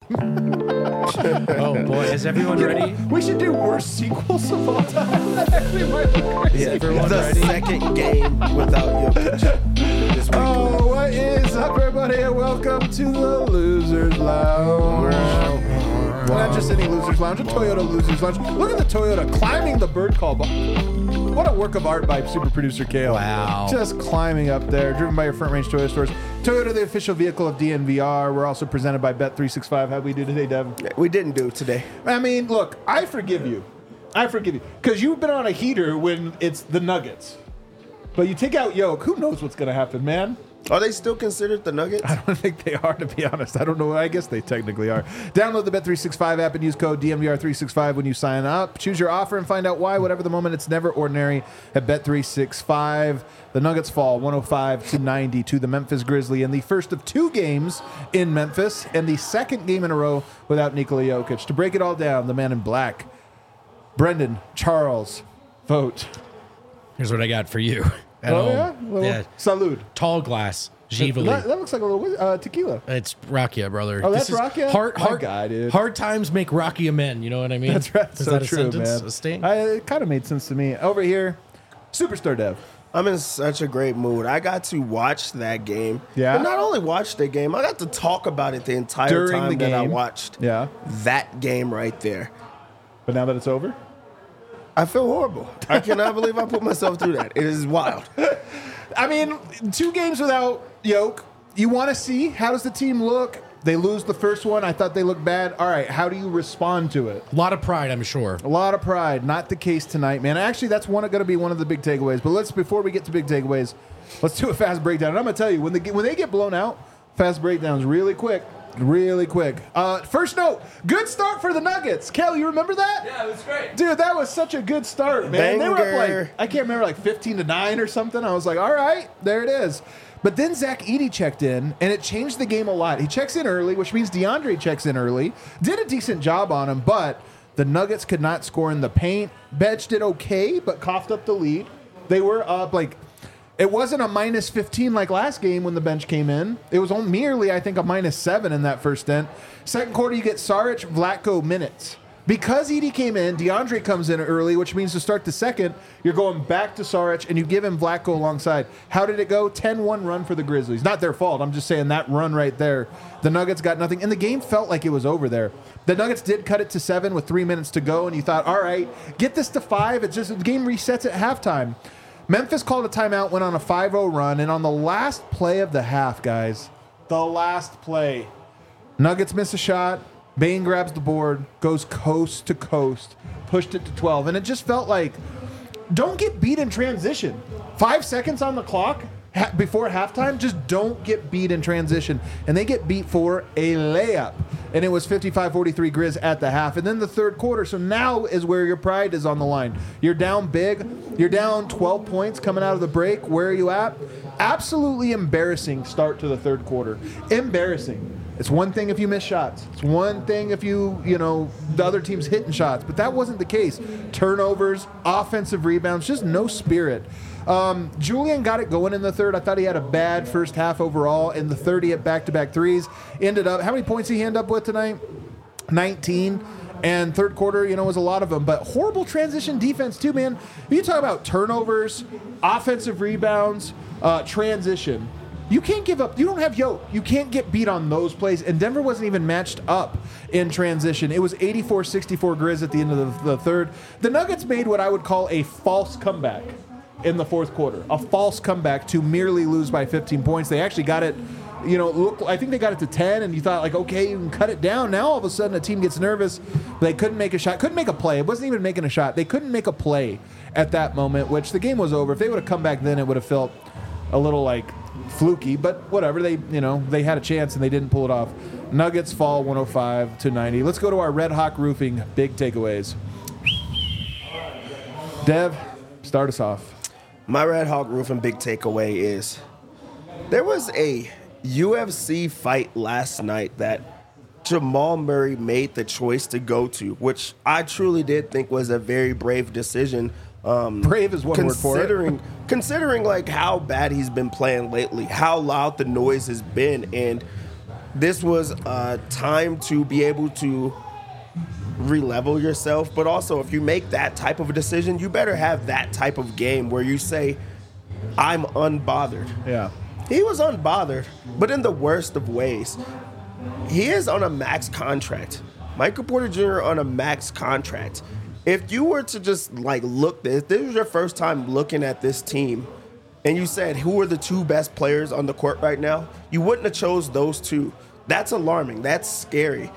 Oh boy, is everyone ready? We should do worst sequels of all time. That actually might be crazy. Yeah, everyone The ready? second game without Jokic this week. Oh, what is up, everybody, and welcome to the Losers Lounge. Not just any Losers Lounge, a Toyota Losers Lounge. Look at the Toyota climbing the bird call. What a work of art by super producer Kale. Wow. Just climbing up there, driven by your Front Range Toyota stores. Toyota, the official vehicle of DNVR. We're also presented by Bet365. How'd we do today, Dev? We didn't do it today. I mean, look, I forgive you. Because you've been on a heater when it's the Nuggets. But you take out Yoke, who knows what's going to happen, man? Are they still considered the Nuggets? I don't think they are, to be honest. I don't know. I guess they technically are. Download the Bet365 app and use code DNVR365 when you sign up. Choose your offer and find out why. Whatever the moment, it's never ordinary at Bet365. The Nuggets fall 105-90 to the Memphis Grizzlies in the first of two games in Memphis and the second game in a row without Nikola Jokic. To break it all down, the man in black, Brendan Charles Vogt. Here's what I got for you. At Oh, home. yeah? Little Yeah. Salud. Tall glass. Givali. That looks like a little tequila. It's Rakia, brother. Oh, that's This is Rakia? Hard, My hard, guy, dude. hard times make Rakia men. You know what I mean? That's right. Is So that a true, sentence? man. A sting? It kind of made sense to me. Over here, Superstar Dev. I'm in such a great mood. I got to watch that game. Yeah? And not only watch the game, I got to talk about it the entire During time the that I game. watched Yeah. that game right there. But now that it's over? I feel horrible. I cannot believe I put myself through that. It is wild. I mean, 2 games without Yoke. You want to see how does the team look? They lose the first one. I thought they looked bad. All right, how do you respond to it? A lot of pride, I'm sure. A lot of pride. Not the case tonight, man. Actually, that's going to be one of the big takeaways. But before we get to big takeaways, let's do a fast breakdown. And I'm going to tell you, when they get blown out, fast breakdowns really quick. Really quick. First note, good start for the Nuggets. Kel, you remember that? Yeah, it was great. Dude, that was such a good start, man. They were up Banger. I can't remember, 15-9 or something. I was like, all right, there it is. But then Zach Edey checked in, and it changed the game a lot. He checks in early, which means DeAndre checks in early. Did a decent job on him, but the Nuggets could not score in the paint. Bench did okay, but coughed up the lead. They were up, it wasn't a minus 15 like last game when the bench came in. It was merely, I think, a minus 7 in that first stint. Second quarter, you get Saric, Vlatko minutes. Because Edey came in, DeAndre comes in early, which means to start the second, you're going back to Saric, and you give him Vlatko alongside. How did it go? 10-1 run for the Grizzlies. Not their fault. I'm just saying that run right there. The Nuggets got nothing, and the game felt like it was over there. The Nuggets did cut it to 7 with 3 minutes to go, and you thought, all right, get this to 5. It's just the game resets at halftime. Memphis called a timeout, went on a 5-0 run, and on the last play of the half, guys, the last play, Nuggets miss a shot, Bane grabs the board, goes coast to coast, pushed it to 12, and it just felt like, don't get beat in transition. 5 seconds on the clock before halftime, just don't get beat in transition. And they get beat for a layup. And it was 55-43 Grizz at the half. And then the third quarter, so now is where your pride is on the line. You're down big. You're down 12 points coming out of the break. Where are you at? Absolutely embarrassing start to the third quarter. Embarrassing. It's one thing if you miss shots. It's one thing if the other team's hitting shots. But that wasn't the case. Turnovers, offensive rebounds, just no spirit. Julian got it going in the third. I thought he had a bad first half overall. In the third, he hit back-to-back threes. Ended up, how many points did he end up with tonight? 19. And third quarter, was a lot of them. But horrible transition defense, too, man. You talk about turnovers, offensive rebounds, transition. You can't give up. You don't have Yoke. You can't get beat on those plays. And Denver wasn't even matched up in transition. It was 84-64 Grizz at the end of the third. The Nuggets made what I would call a false comeback in the fourth quarter. A false comeback to merely lose by 15 points. They actually got it, I think they got it to 10, and you thought, okay, you can cut it down. Now all of a sudden a team gets nervous. They couldn't make a shot. Couldn't make a play. It wasn't even making a shot. They couldn't make a play at that moment, which the game was over. If they would have come back then, it would have felt a little fluky, but whatever. They had a chance and they didn't pull it off. Nuggets fall 105-90. Let's go to our Red Hawk Roofing big takeaways. Dev, start us off. My Red Hawk Roofing big takeaway is there was a UFC fight last night that Jamal Murray made the choice to go to, which I truly did think was a very brave decision. Brave is one word for it. Considering how bad he's been playing lately, how loud the noise has been, and this was a time to be able to re-level yourself. But also, if you make that type of a decision, you better have that type of game where you say, I'm unbothered. Yeah. He was unbothered, but in the worst of ways. He is on a max contract. Michael Porter Jr. on a max contract. If you were to just look, if this was your first time looking at this team, and you said who are the two best players on the court right now, you wouldn't have chose those two. That's alarming. That's scary.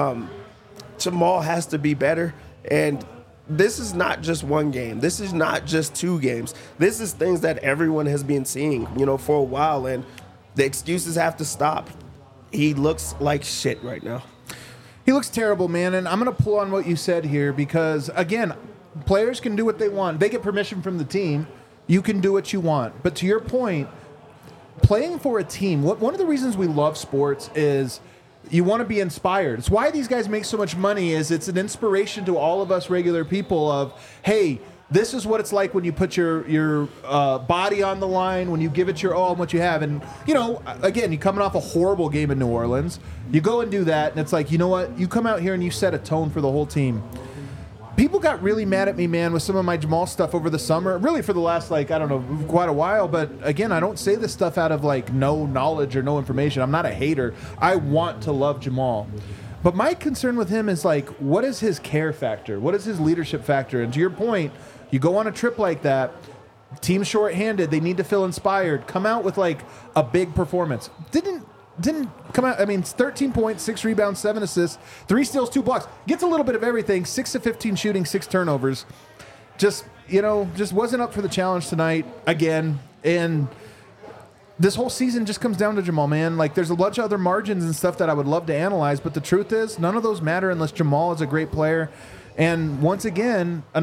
Jamal has to be better, and this is not just one game. This is not just two games. This is things that everyone has been seeing, for a while, and the excuses have to stop. He looks like shit right now. He looks terrible, man, and I'm going to pull on what you said here because, again, players can do what they want. They get permission from the team. You can do what you want. But to your point, playing for a team, one of the reasons we love sports is you want to be inspired. It's why these guys make so much money is it's an inspiration to all of us regular people of, hey, this is what it's like when you put your body on the line, when you give it your all and what you have. And, again, you're coming off a horrible game in New Orleans. You go and do that, and it's like, you know what? You come out here and you set a tone for the whole team. People got really mad at me, man, with some of my Jamal stuff over the summer, really for the last, quite a while. But, again, I don't say this stuff out of, no knowledge or no information. I'm not a hater. I want to love Jamal. But my concern with him is, what is his care factor? What is his leadership factor? And to your point, you go on a trip like that, team shorthanded, they need to feel inspired, come out with, a big performance. Didn't come out. I mean, 13 points, 6 rebounds, 7 assists, 3 steals, 2 blocks. Gets a little bit of everything. 6 of 15 shooting, 6 turnovers. Just wasn't up for the challenge tonight again. And this whole season just comes down to Jamal, man. There's a bunch of other margins and stuff that I would love to analyze, but the truth is, none of those matter unless Jamal is a great player. And once again, an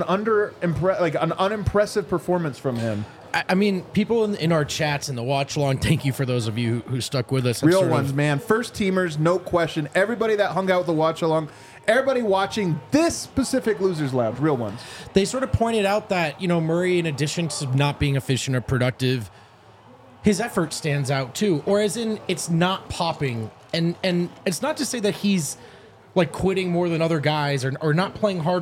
unimpressive performance from him. I mean, people in our chats and the watch along, thank you for those of you who stuck with us. Real ones, man. First teamers, no question. Everybody that hung out with the watch along, everybody watching this specific Losers Lounge, real ones. They sort of pointed out that, Murray, in addition to not being efficient or productive, his effort stands out too. Or as in, it's not popping. And it's not to say that he's quitting more than other guys or not playing hard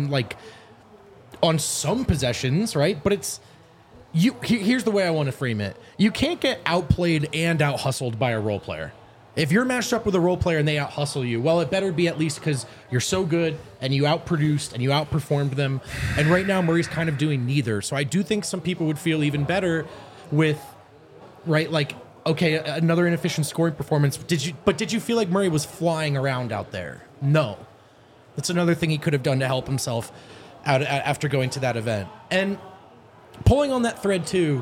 on some possessions, right? But it's here's the way I want to frame it. You can't get outplayed and out-hustled by a role player. If you're matched up with a role player and they out-hustle you, well, it better be at least because you're so good and you outproduced and you outperformed them. And right now, Murray's kind of doing neither. So I do think some people would feel even better with, right, okay, another inefficient scoring performance. Did you feel like Murray was flying around out there? No. That's another thing he could have done to help himself out after going to that event. And pulling on that thread too,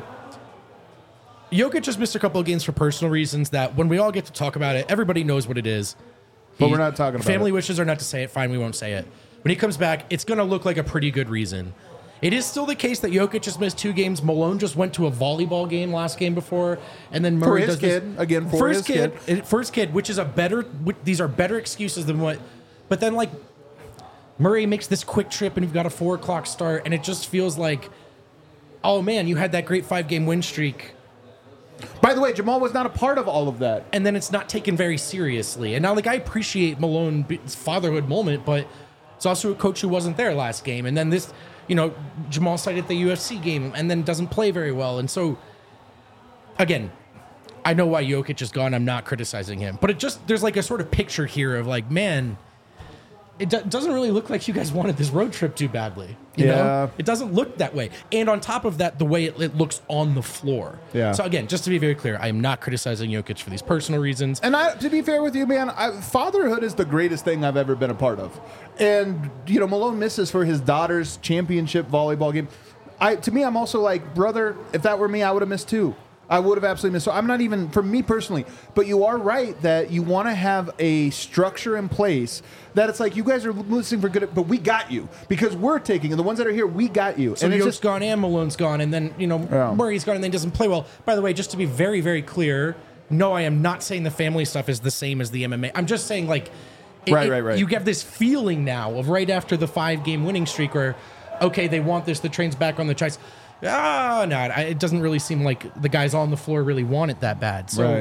Jokic just missed a couple of games for personal reasons that when we all get to talk about it, everybody knows what it is. But we're not talking about family it. wishes are not to say it. Fine, we won't say it. When he comes back, it's going to look like a pretty good reason. It is still the case that Jokic just missed 2 games. Malone just went to a volleyball game last game before, and then Murray does this. First kid, which is these are better excuses than what. But then Murray makes this quick trip, and you've got a 4:00 start, and it just feels like, oh man, you had that great 5-game win streak. By the way, Jamal was not a part of all of that. And then it's not taken very seriously. And now, I appreciate Malone's fatherhood moment, but it's also a coach who wasn't there last game. And then this, Jamal cited the UFC game and then doesn't play very well. And so, again, I know why Jokic is gone. I'm not criticizing him. But there's a sort of picture here of man, it doesn't really look like you guys wanted this road trip too badly. You know? It doesn't look that way. And on top of that, the way it looks on the floor. Yeah. So again, just to be very clear, I am not criticizing Jokic for these personal reasons. And to be fair with you, man, fatherhood is the greatest thing I've ever been a part of. And, Malone misses for his daughter's championship volleyball game. To me, I'm also brother, if that were me, I would have missed too. I would have absolutely missed. So I'm not even, for me personally, but you are right that you want to have a structure in place that it's you guys are listening for good, but we got you because we're taking, and the ones that are here, we got you. So and Yoke's gone and Malone's gone, and then, Murray's gone and then doesn't play well. By the way, just to be very, very clear, no, I am not saying the family stuff is the same as the MMA. I'm just saying, right. You get this feeling now of right after the 5-game winning streak where, okay, they want this, the train's back on the tracks. No, it doesn't really seem like the guys on the floor really want it that bad. So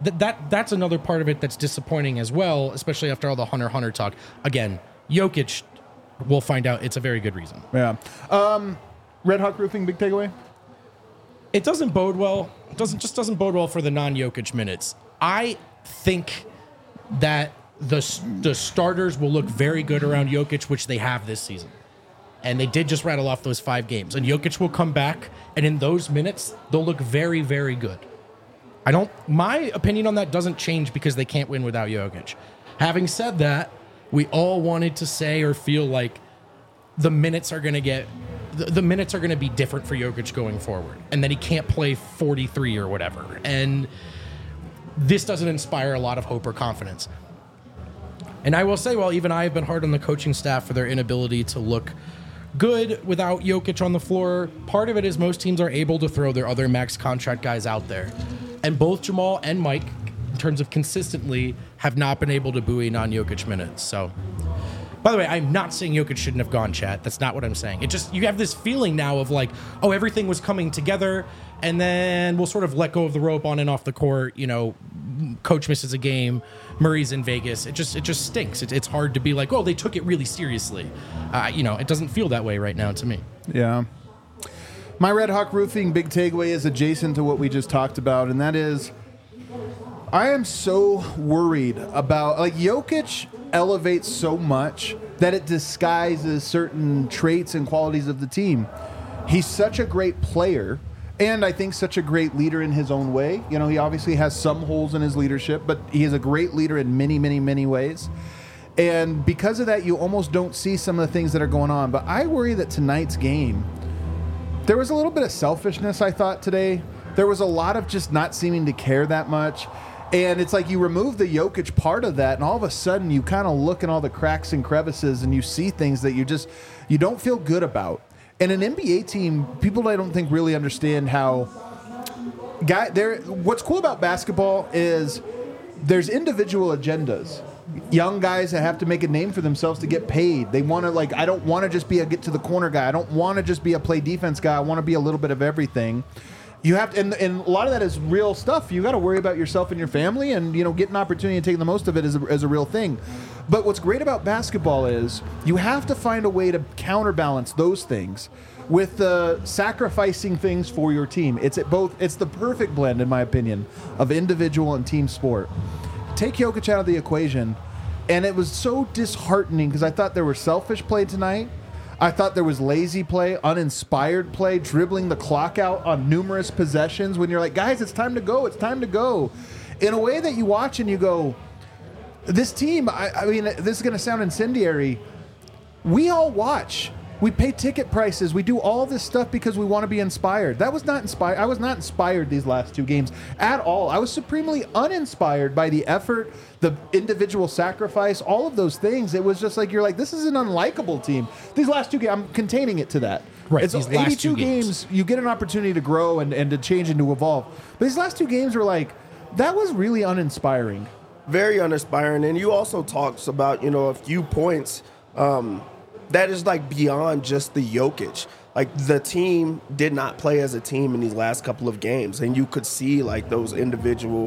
that's another part of it that's disappointing as well, especially after all the Hunter talk. Again, Jokic, we'll find out it's a very good reason. Yeah. Red Hawk Roofing, big takeaway? It doesn't bode well. It doesn't bode well for the non-Jokic minutes. I think that the starters will look very good around Jokic, which they have this season. And they did just rattle off those 5 games. And Jokic will come back, and in those minutes, they'll look very, very good. My opinion on that doesn't change because they can't win without Jokic. Having said that, we all wanted to say or feel like the minutes are going to be different for Jokic going forward, and that he can't play 43 or whatever. And this doesn't inspire a lot of hope or confidence. And I will say, while even I have been hard on the coaching staff for their inability to look good without Jokic on the floor, part of it is most teams are able to throw their other max contract guys out there. And both Jamal and Mike, in terms of consistently, have not been able to buoy non-Jokic minutes. So, by the way, I'm not saying Jokic shouldn't have gone, chat. That's not what I'm saying. It just, you have this feeling now of like, oh, everything was coming together, and then we'll sort of let go of the rope on and off the court. You know, coach misses a game, Murray's in Vegas. It just stinks. It's hard to be like, oh, they took it really seriously. It doesn't feel that way right now to me. Yeah. My Red Hawk Roofing big takeaway is adjacent to what we just talked about, and that is, I am so worried about, like, Jokic elevates so much that it disguises certain traits and qualities of the team. He's such a great player, and I think such a great leader in his own way. You know, he obviously has some holes in his leadership, but he is a great leader in many, many, many ways. And because of that, you almost don't see some of the things that are going on. But I worry that tonight's game, there was a little bit of selfishness, I thought, today. There was a lot of just not seeming to care that much. And it's like you remove the Jokic part of that, and all of a sudden you kind of look in all the cracks and crevices and you see things that you don't feel good about. And an NBA team, people I don't think really understand how what's cool about basketball is there's individual agendas. Young guys that have to make a name for themselves to get paid. They want to, like, I don't want to just be a get to the corner guy. I don't want to just be a play defense guy. I want to be a little bit of everything. You have to, and a lot of that is real stuff. You got to worry about yourself and your family, and get an opportunity and take the most of it is a real thing. But what's great about basketball is you have to find a way to counterbalance those things with the sacrificing things for your team. It's the perfect blend, in my opinion, of individual and team sport. Take Jokic out of the equation, and it was so disheartening because I thought there was selfish play tonight. I thought there was lazy play, uninspired play, dribbling the clock out on numerous possessions when you're like, guys, it's time to go. It's time to go. In a way that you watch and you go, this team, I mean, this is going to sound incendiary. We all watch. We pay ticket prices. We do all this stuff because we want to be inspired. That was not inspired. I was not inspired these last 2 games at all. I was supremely uninspired by the effort, the individual sacrifice, all of those things. It was just like, you're like, this is an unlikable team. These last 2 games, I'm containing it to that. Right. It's 82 games. You get an opportunity to grow and to change and to evolve. But these last 2 games were like, that was really uninspiring. Very uninspiring. And you also talked about, a few points that is like beyond just the Jokic. Like, the team did not play as a team in these last couple of games, and you could see like those individual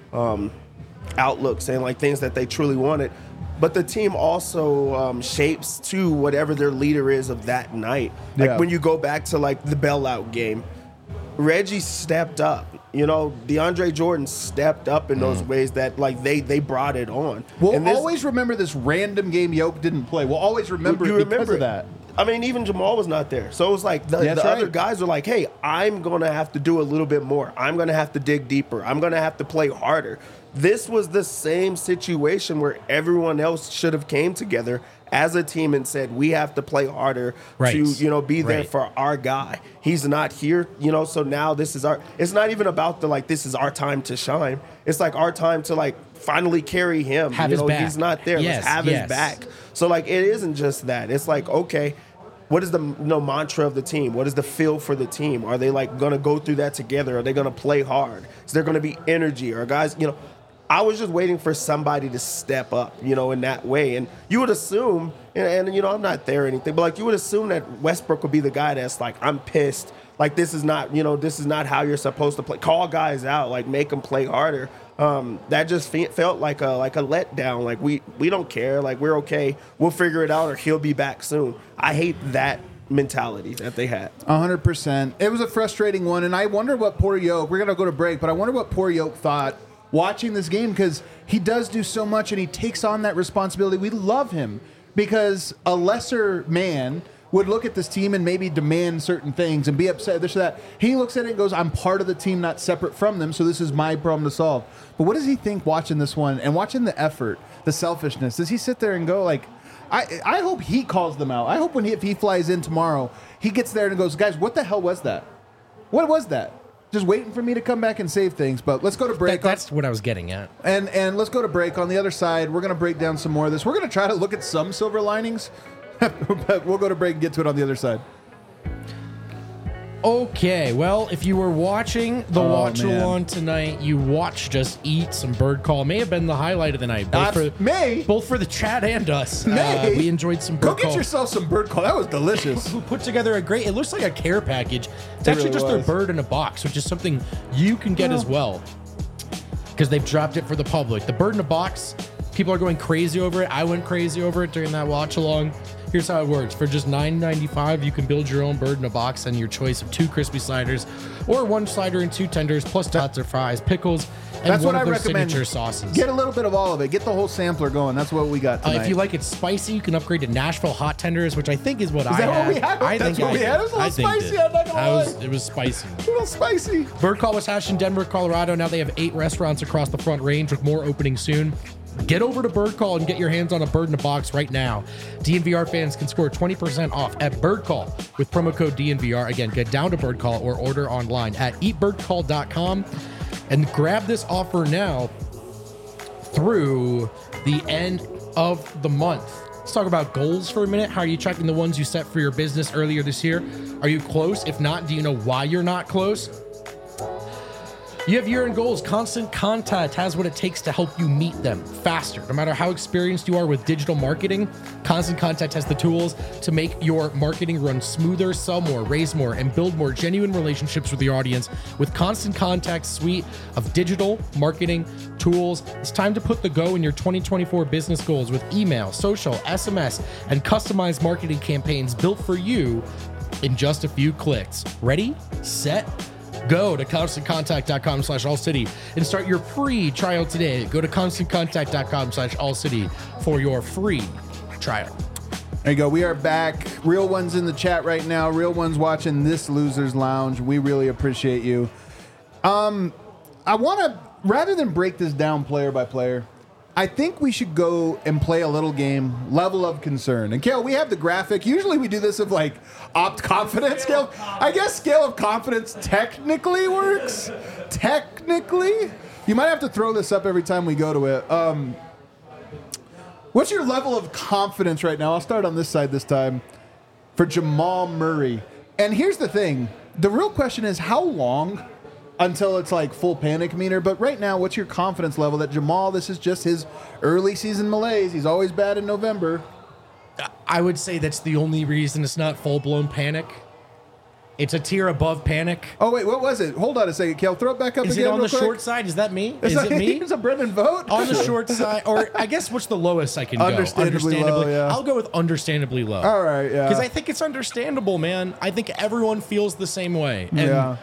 outlooks and like things that they truly wanted. But the team also shapes to whatever their leader is of that night. Like when you go back to like the bailout game, Reggie stepped up. DeAndre Jordan stepped up in those ways that, like, they brought it on. We'll always remember this random game Jokic didn't play. We'll always remember it because of that. I mean, even Jamal was not there. So it was like the other guys were like, hey, I'm going to have to do a little bit more. I'm going to have to dig deeper. I'm going to have to play harder. This was the same situation where everyone else should have came together as a team and said, we have to play harder to, be there for our guy. He's not here, so now this is it's not even about this is our time to shine. It's like our time to like finally carry him. Have his back. He's not there. Yes, Let's have his back. So like, it isn't just that. It's like, okay, what is the mantra of the team? What is the feel for the team? Are they like going to go through that together? Are they going to play hard? Is there going to be energy? Or guys, I was just waiting for somebody to step up, in that way. And you would assume, and I'm not there or anything, but like you would assume that Westbrook would be the guy that's like, I'm pissed. Like, this is not how you're supposed to play. Call guys out, like make them play harder. that just felt like a letdown. Like we don't care. Like we're okay. We'll figure it out, or he'll be back soon. I hate that mentality that they had. 100%. It was a frustrating one, and I wonder what poor Yoke. We're gonna go to break, but I wonder what poor Yoke thought watching this game, because he does do so much and he takes on that responsibility. We love him because a lesser man would look at this team and maybe demand certain things and be upset, this or that. He looks at it and goes, I'm part of the team, not separate from them, so this is my problem to solve. But what does he think watching this one and watching the effort, the selfishness? Does he sit there and go like, I hope he calls them out. I hope if he flies in tomorrow, he gets there and goes, guys, what the hell was that? What was that? Just waiting for me to come back and save things. But let's go to break. That's what I was getting at. And let's go to break. On the other side, we're going to break down some more of this. We're going to try to look at some silver linings. But we'll go to break and get to it on the other side. Okay, well, if you were watching the watch-along tonight, you watched us eat some bird call. May have been the highlight of the night. Both for the chat and us. We enjoyed some bird call. Go get yourself some bird call. That was delicious. Who put together a great, it looks like a care package. It's actually really just was. their bird in a box, which is something you can get as well, because they've dropped it for the public. The bird in a box, people are going crazy over it. I went crazy over it during that watch-along. Here's how it works. For just $9.95, you can build your own bird in a box and your choice of 2 crispy sliders or 1 slider and 2 tenders, plus tots or fries, pickles, and That's one what of I their recommend. signature sauces. Get a little bit of all of it. Get the whole sampler going. That's what we got tonight. If you like it spicy, you can upgrade to Nashville hot tenders, which I think is what I had. Is that what we had? I That's think what we had? It was a little spicy, I'm not gonna lie. It was spicy. a little spicy. Bird Call was hatched in Denver, Colorado. Now they have 8 restaurants across the Front Range, with more opening soon. Get over to Bird Call and get your hands on a bird in a box right now. DNVR fans can score 20% off at Bird Call with promo code DNVR. Again, get down to Bird Call or order online at eatbirdcall.com and grab this offer now through the end of the month. Let's talk about goals for a minute. How are you tracking the ones you set for your business earlier this year? Are you close? If not, do you know why you're not close? You have year-end goals. Constant Contact has what it takes to help you meet them faster. No matter how experienced you are with digital marketing, Constant Contact has the tools to make your marketing run smoother, sell more, raise more, and build more genuine relationships with your audience. With Constant Contact's suite of digital marketing tools, it's time to put the go in your 2024 business goals with email, social, SMS, and customized marketing campaigns built for you in just a few clicks. Ready, set, go to ConstantContact.com/AllCity and start your free trial today. Go to ConstantContact.com/AllCity for your free trial. There you go. We are back. Real ones in the chat right now. Real ones watching this Losers Lounge. We really appreciate you. I want to, rather than break this down player by player, I think we should go and play a little game, Level of Concern. And Kale, we have the graphic. Usually we do this of like opt confidence scale. I guess scale of confidence technically works. Technically. You might have to throw this up every time we go to it. What's your level of confidence right now? I'll start on this side this time for Jamal Murray. And here's the thing. The real question is how long until it's like full panic meter. But right now, what's your confidence level that Jamal, this is just his early season malaise. He's always bad in November. I would say that's the only reason it's not full-blown panic. It's a tier above panic. Oh, wait, what was it? Hold on a second, Kale. Throw it back up Is again. it on real the quick. short side? Is that me? Is It's it me? Here's a Brendan vote. On the short side, or I guess what's the lowest I can go? Understandably low, yeah. I'll go with understandably low. All right, yeah. Because I think it's understandable, man. I think everyone feels the same way. And, Yeah.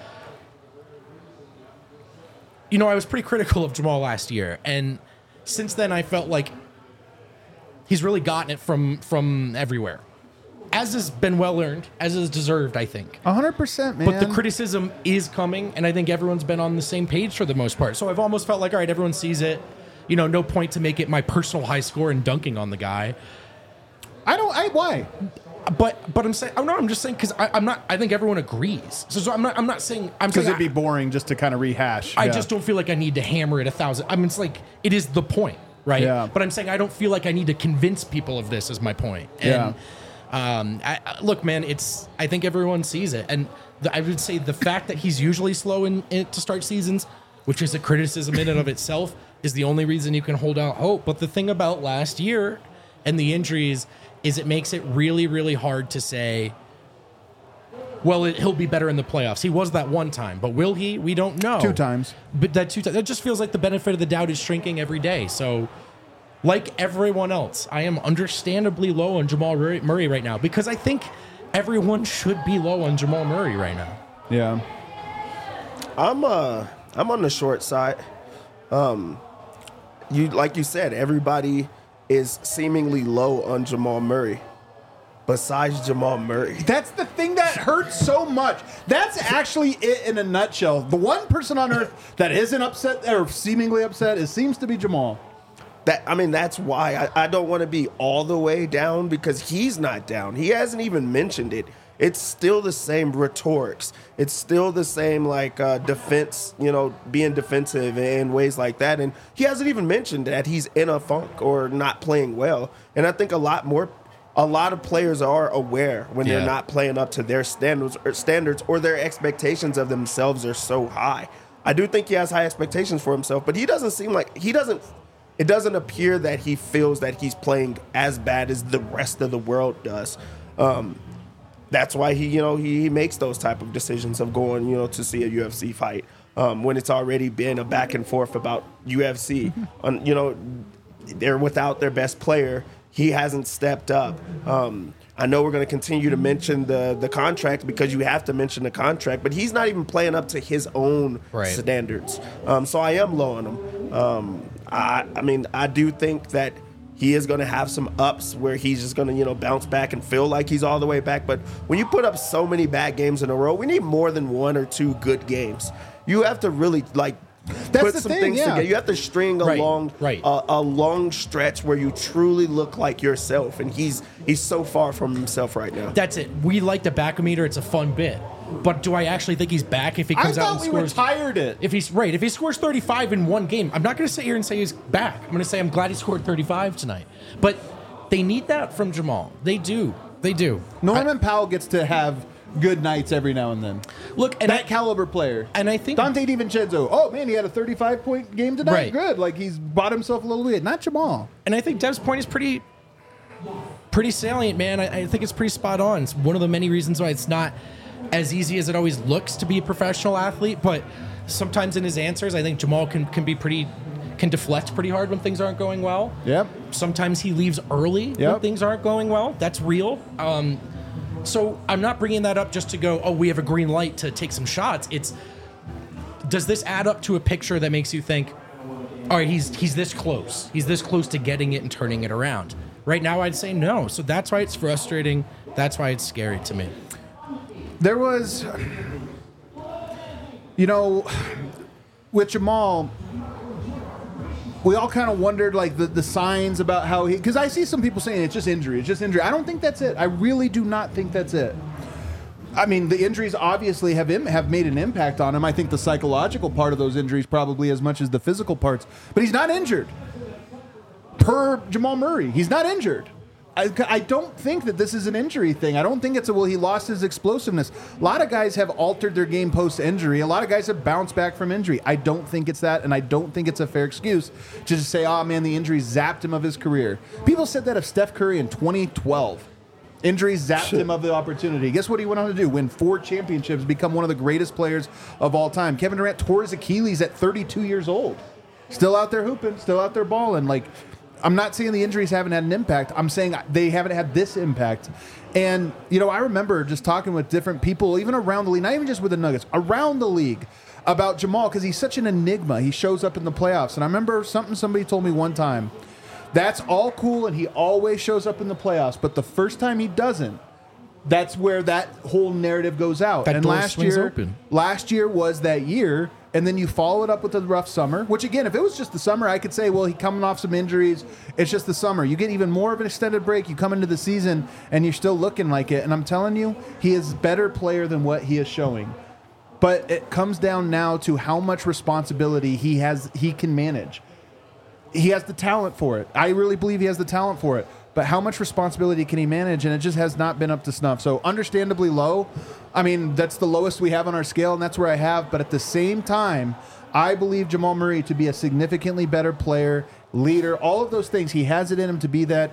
you know, I was pretty critical of Jamal last year, and since then I felt like he's really gotten it from everywhere. As has been well earned, as is deserved, I think. 100%, man. But the criticism is coming, and I think everyone's been on the same page for the most part. So I've almost felt like, all right, everyone sees it. You know, no point to make it my personal high score and dunking on the guy. Why? But I'm saying, oh no, I'm just saying because I'm not. I think everyone agrees. So I'm not saying I'm Because saying it'd be boring just to kind of rehash. I Yeah. just don't feel like I need to hammer it 1,000. I mean, it's like it is the point, right? Yeah. But I'm saying I don't feel like I need to convince people of this. Is my point. And, look, man, I think everyone sees it, and I would say the fact that he's usually slow in to start seasons, which is a criticism in and of itself, is the only reason you can hold out hope. But the thing about last year and the injuries is it makes it really, really hard to say well, he'll be better in the playoffs. He was that one time, but will he? We don't know. 2 times. But that just feels like the benefit of the doubt is shrinking every day. So, like everyone else, I am understandably low on Jamal Murray right now because I think everyone should be low on Jamal Murray right now. Yeah. I'm on the short side. Like you said, everybody is seemingly low on Jamal Murray. Besides Jamal Murray. That's the thing that hurts so much. That's actually it in a nutshell. The one person on earth that isn't upset or seemingly upset seems to be Jamal. That's why I don't want to be all the way down because he's not down. He hasn't even mentioned it. It's still the same rhetorics. It's still the same defense, being defensive in ways like that. And he hasn't even mentioned that he's in a funk or not playing well. And I think a lot of players are aware when they're not playing up to their standards or their expectations of themselves are so high. I do think he has high expectations for himself, but he doesn't seem like it doesn't appear that he feels that he's playing as bad as the rest of the world does. That's why he makes those type of decisions of going, to see a UFC fight when it's already been a back and forth about UFC. They're without their best player. He hasn't stepped up. I know we're going to continue to mention the contract because you have to mention the contract, but he's not even playing up to his own standards. So I am low on him. I do think that he is going to have some ups where he's just going to, bounce back and feel like he's all the way back. But when you put up so many bad games in a row, we need more than 1 or 2 good games. You have to really put some things together. You have to string a long stretch where you truly look like yourself, and he's so far from himself right now. That's it. We like the back-o-meter. It's a fun bit. But do I actually think he's back if he comes out and scores? I thought we retired it. If he scores 35 in one game, I'm not going to sit here and say he's back. I'm going to say I'm glad he scored 35 tonight. But they need that from Jamal. They do. Norman Powell gets to have good nights every now and then. Look, and that caliber player. And I think Dante DiVincenzo. Oh man, he had a 35-point game tonight. Right. Good. Like he's bought himself a little bit. Not Jamal. And I think Dev's point is pretty salient, man. I think it's pretty spot on. It's one of the many reasons why it's not as easy as it always looks to be a professional athlete. But sometimes in his answers, I think Jamal can deflect pretty hard when things aren't going well. Yep. Sometimes he leaves early when things aren't going well. That's real. So I'm not bringing that up just to go, oh, we have a green light to take some shots. It's, does this add up to a picture that makes you think, all right, he's this close. He's this close to getting it and turning it around. Right now, I'd say no. So that's why it's frustrating. That's why it's scary to me. There was, with Jamal, we all kind of wondered the signs about how because I see some people saying it's just injury. I don't think that's it. I really do not think that's it. I mean, the injuries obviously have made an impact on him. I think the psychological part of those injuries probably as much as the physical parts. But he's not injured. Per Jamal Murray, he's not injured. I don't think that this is an injury thing. I don't think it's he lost his explosiveness. A lot of guys have altered their game post-injury. A lot of guys have bounced back from injury. I don't think it's that, and I don't think it's a fair excuse to just say, oh, man, the injury zapped him of his career. People said that of Steph Curry in 2012. Injuries zapped him of the opportunity. Guess what he went on to do? Win 4 championships, become one of the greatest players of all time. Kevin Durant tore his Achilles at 32 years old. Still out there hooping, still out there balling. I'm not saying the injuries haven't had an impact. I'm saying they haven't had this impact. And, I remember just talking with different people, even around the league, not even just with the Nuggets, around the league, about Jamal because he's such an enigma. He shows up in the playoffs. And I remember somebody told me one time, that's all cool and he always shows up in the playoffs. But the first time he doesn't, that's where that whole narrative goes out. That and door swings open. Last year was that year. And then you follow it up with a rough summer, which, again, if it was just the summer, I could say, well, he's coming off some injuries. It's just the summer. You get even more of an extended break. You come into the season, and you're still looking like it. And I'm telling you, he is a better player than what he is showing. But it comes down now to how much responsibility he can manage. He has the talent for it. I really believe he has the talent for it. But how much responsibility can he manage? And it just has not been up to snuff. So understandably low. I mean, that's the lowest we have on our scale, and that's where I have. But at the same time, I believe Jamal Murray to be a significantly better player, leader, all of those things. He has it in him to be that.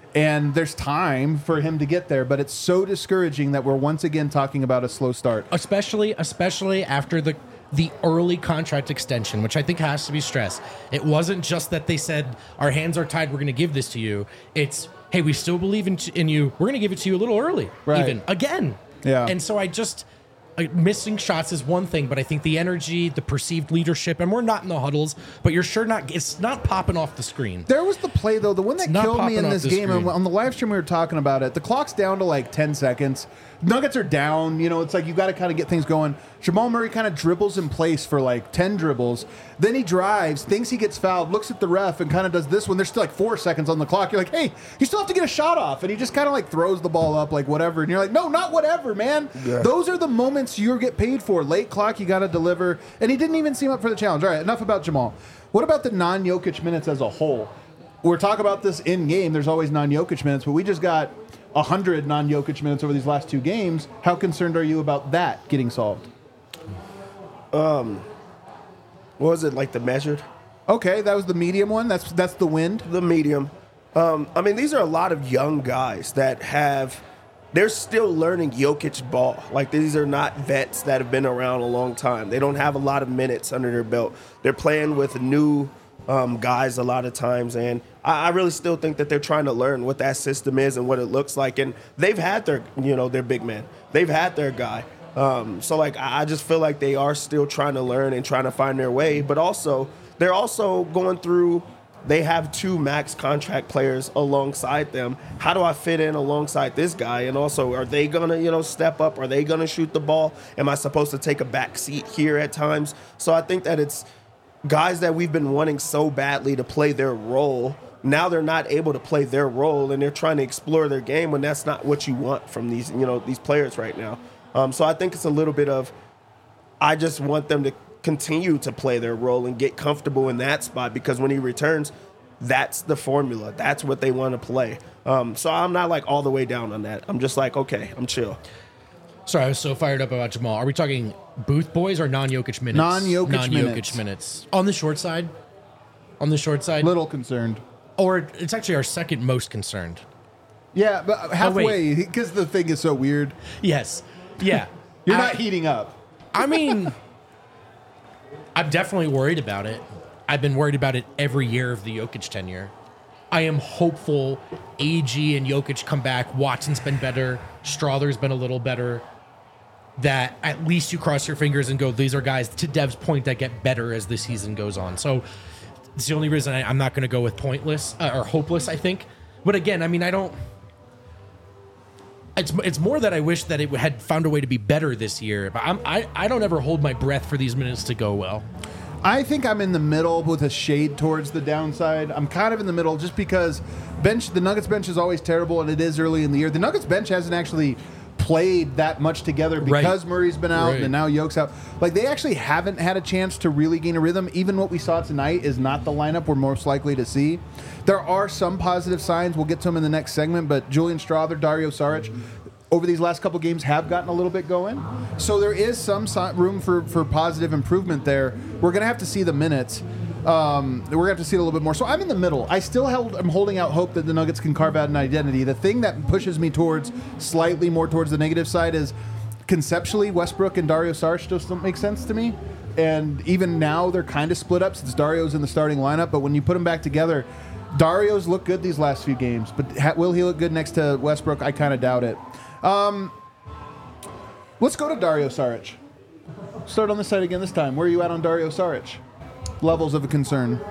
And there's time for him to get there, but it's so discouraging that we're once again talking about a slow start. Especially after the early contract extension, which I think has to be stressed. It wasn't just that they said, our hands are tied, we're going to give this to you. It's, hey, we still believe in you. We're going to give it to you a little early, even again. Yeah. And so missing shots is one thing, but I think the energy, the perceived leadership, and we're not in the huddles, but you're sure it's not popping off the screen. There was the play, though, the one that killed me in this game, and on the live stream we were talking about it, the clock's down to like 10 seconds. Nuggets are down, it's like you got to kind of get things going. Jamal Murray kind of dribbles in place for like 10 dribbles. Then he drives, thinks he gets fouled, looks at the ref, and kind of does this when there's still like 4 seconds on the clock. You're like, hey, you still have to get a shot off. And he just kind of like throws the ball up like whatever. And you're like, no, not whatever, man. Yeah. Those are the moments you get paid for. Late clock, you got to deliver. And he didn't even seem up for the challenge. All right, enough about Jamal. What about the non-Jokic minutes as a whole? We're talking about this in-game. There's always non-Jokic minutes, but we just got 100 non-Jokic minutes over these last 2 games. How concerned are you about that getting solved? What was it, like the measured? Okay, that was the medium one. That's the wind. The medium. I mean, these are a lot of young guys that they're still learning Jokic ball. Like, these are not vets that have been around a long time. They don't have a lot of minutes under their belt. They're playing with new guys a lot of times, and I really still think that they're trying to learn what that system is and what it looks like. And they've had their big man. They've had their guy. So, like, I just feel like they are still trying to learn and trying to find their way. But also, they're also going through – they have 2 max contract players alongside them. How do I fit in alongside this guy? And also, are they going to, step up? Are they going to shoot the ball? Am I supposed to take a back seat here at times? So I think that it's guys that we've been wanting so badly to play their role. Now they're not able to play their role, and they're trying to explore their game when that's not what you want from these players right now. So I think it's a little bit of, I just want them to continue to play their role and get comfortable in that spot, because when he returns, that's the formula. That's what they want to play. So I'm not like all the way down on that. I'm just like, okay, I'm chill. Sorry, I was so fired up about Jamal. Are we talking Booth boys or non-Jokic minutes? Non-Jokic minutes. On the short side? Little concerned. Or it's actually our second most concerned. Yeah, but halfway, because the thing is so weird. Yes. Yeah. You're not heating up. I mean, I'm definitely worried about it. I've been worried about it every year of the Jokic tenure. I am hopeful AG and Jokic come back. Watson's been better. Strother's been a little better. That at least you cross your fingers and go, these are guys, to Dev's point, that get better as the season goes on. So it's the only reason I'm not going to go with pointless or hopeless, I think. But again, I mean, I don't... It's more that I wish that it had found a way to be better this year. But I don't ever hold my breath for these minutes to go well. I think I'm in the middle with a shade towards the downside. I'm kind of in the middle just because the Nuggets bench is always terrible, and it is early in the year. The Nuggets bench hasn't actually played that much together because Murray's been out and now Yoke's out. Like, they actually haven't had a chance to really gain a rhythm. Even what we saw tonight is not the lineup we're most likely to see. There are some positive signs. We'll get to them in the next segment, but Julian Strawther, Dario Saric, over these last couple games have gotten a little bit going. So there is some room for positive improvement there. We're going to have to see the minutes. We're going to have to see it a little bit more. So I'm in the middle. I still am holding out hope that the Nuggets can carve out an identity. The thing that pushes me slightly more towards the negative side is conceptually Westbrook and Dario Saric just don't make sense to me. And even now they're kind of split up since Dario's in the starting lineup. But when you put them back together, Dario's looked good these last few games. But will he look good next to Westbrook? I kind of doubt it. Let's go to Dario Saric. Start on this side again this time. Where are you at on Dario Saric? Levels of a concern.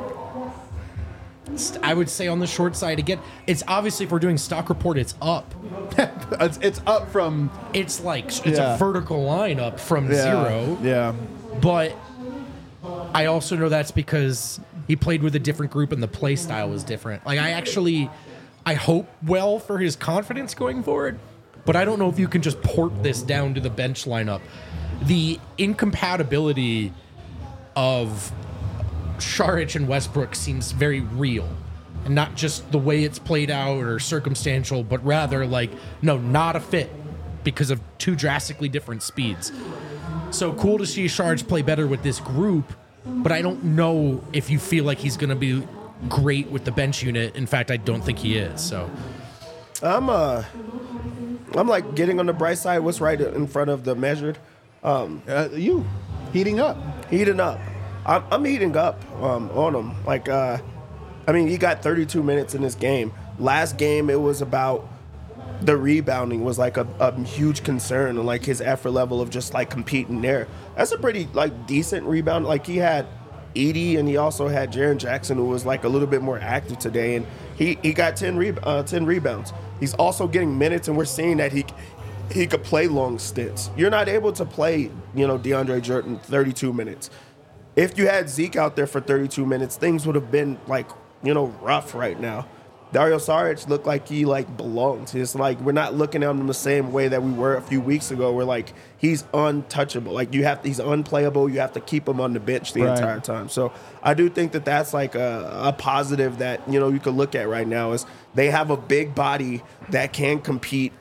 I would say on the short side again. It's obviously, if we're doing stock report, it's up. it's up from. It's like it's a vertical line up from zero. Yeah. But I also know that's because he played with a different group and the play style was different. Like, I hope well for his confidence going forward. But I don't know if you can just port this down to the bench lineup. The incompatibility of Saric and Westbrook seems very real. And not just the way it's played out or circumstantial, but rather like, no, not a fit because of two drastically different speeds. So cool to see Saric play better with this group, but I don't know if you feel like he's going to be great with the bench unit. In fact, I don't think he is. So I'm like getting on the bright side. What's right in front of the measured? You heating up. Heating up. I'm heating up on him. Like, I mean, he got 32 minutes in this game. Last game, it was about the rebounding was like a huge concern, and like his effort level of just like competing there. That's a pretty like decent rebound. Like he had Edie, and he also had Jaren Jackson, who was like a little bit more active today, and he got 10 rebounds. He's also getting minutes, and we're seeing that he could play long stints. You're not able to play, DeAndre Jordan 32 minutes. If you had Zeke out there for 32 minutes, things would have been like, rough right now. Dario Saric looked like he belongs. It's like we're not looking at him the same way that we were a few weeks ago. Where like he's untouchable. Like he's unplayable. You have to keep him on the bench the entire time. So I do think that that's like a positive that you could look at right now is they have a big body that can compete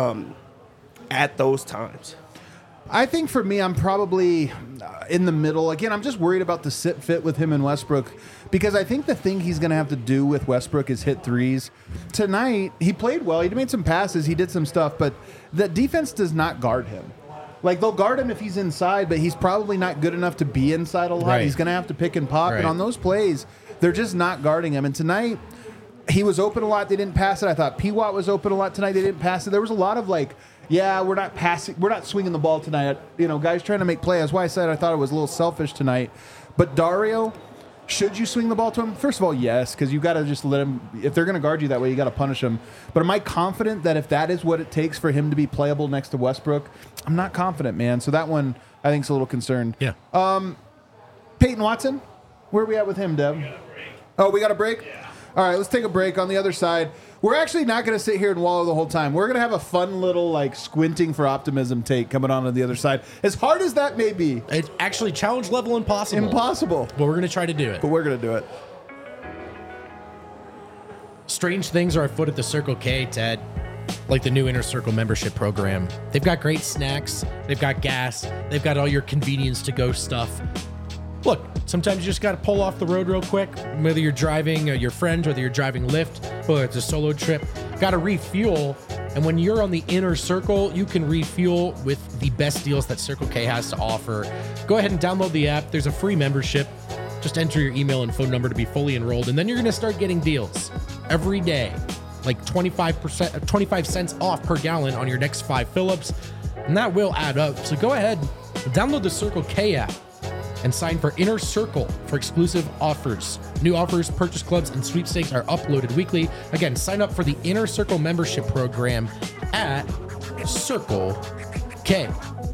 at those times. I think for me, I'm probably in the middle. Again, I'm just worried about the fit with him and Westbrook because I think the thing he's going to have to do with Westbrook is hit threes. Tonight, he played well. He made some passes. He did some stuff, but the defense does not guard him. Like, they'll guard him if he's inside, but he's probably not good enough to be inside a lot. Right. He's going to have to pick and pop. Right. And on those plays, they're just not guarding him. And tonight, he was open a lot. They didn't pass it. I thought P-Watt was open a lot tonight. They didn't pass it. There was a lot of we're not passing. We're not swinging the ball tonight. Guys trying to make plays. That's why I said I thought it was a little selfish tonight. But Dario, should you swing the ball to him? First of all, yes, because you got to just let him. If they're going to guard you that way, you got to punish him. But am I confident that if that is what it takes for him to be playable next to Westbrook? I'm not confident, man. So that one I think is a little concerned. Yeah. Peyton Watson, where are we at with him, Deb? We got a break? Yeah. All right, let's take a break. On the other side, we're actually not going to sit here and wallow the whole time. We're going to have a fun little, squinting for optimism take coming on the other side. As hard as that may be. It's actually challenge level impossible. Impossible. But we're going to try to do it. But we're going to do it. Strange things are afoot at the Circle K, Ted. Like the new Inner Circle membership program. They've got great snacks. They've got gas. They've got all your convenience-to-go stuff. Look, sometimes you just got to pull off the road real quick, whether you're driving your friends, whether you're driving Lyft, whether it's a solo trip, got to refuel. And when you're on the Inner Circle, you can refuel with the best deals that Circle K has to offer. Go ahead and download the app. There's a free membership. Just enter your email and phone number to be fully enrolled. And then you're going to start getting deals every day, like 25 cents off per gallon on your next 5 fill-ups. And that will add up. So go ahead, download the Circle K app and sign for Inner Circle for exclusive offers. New offers, purchase clubs, and sweepstakes are uploaded weekly. Again, sign up for the Inner Circle membership program at Circle K.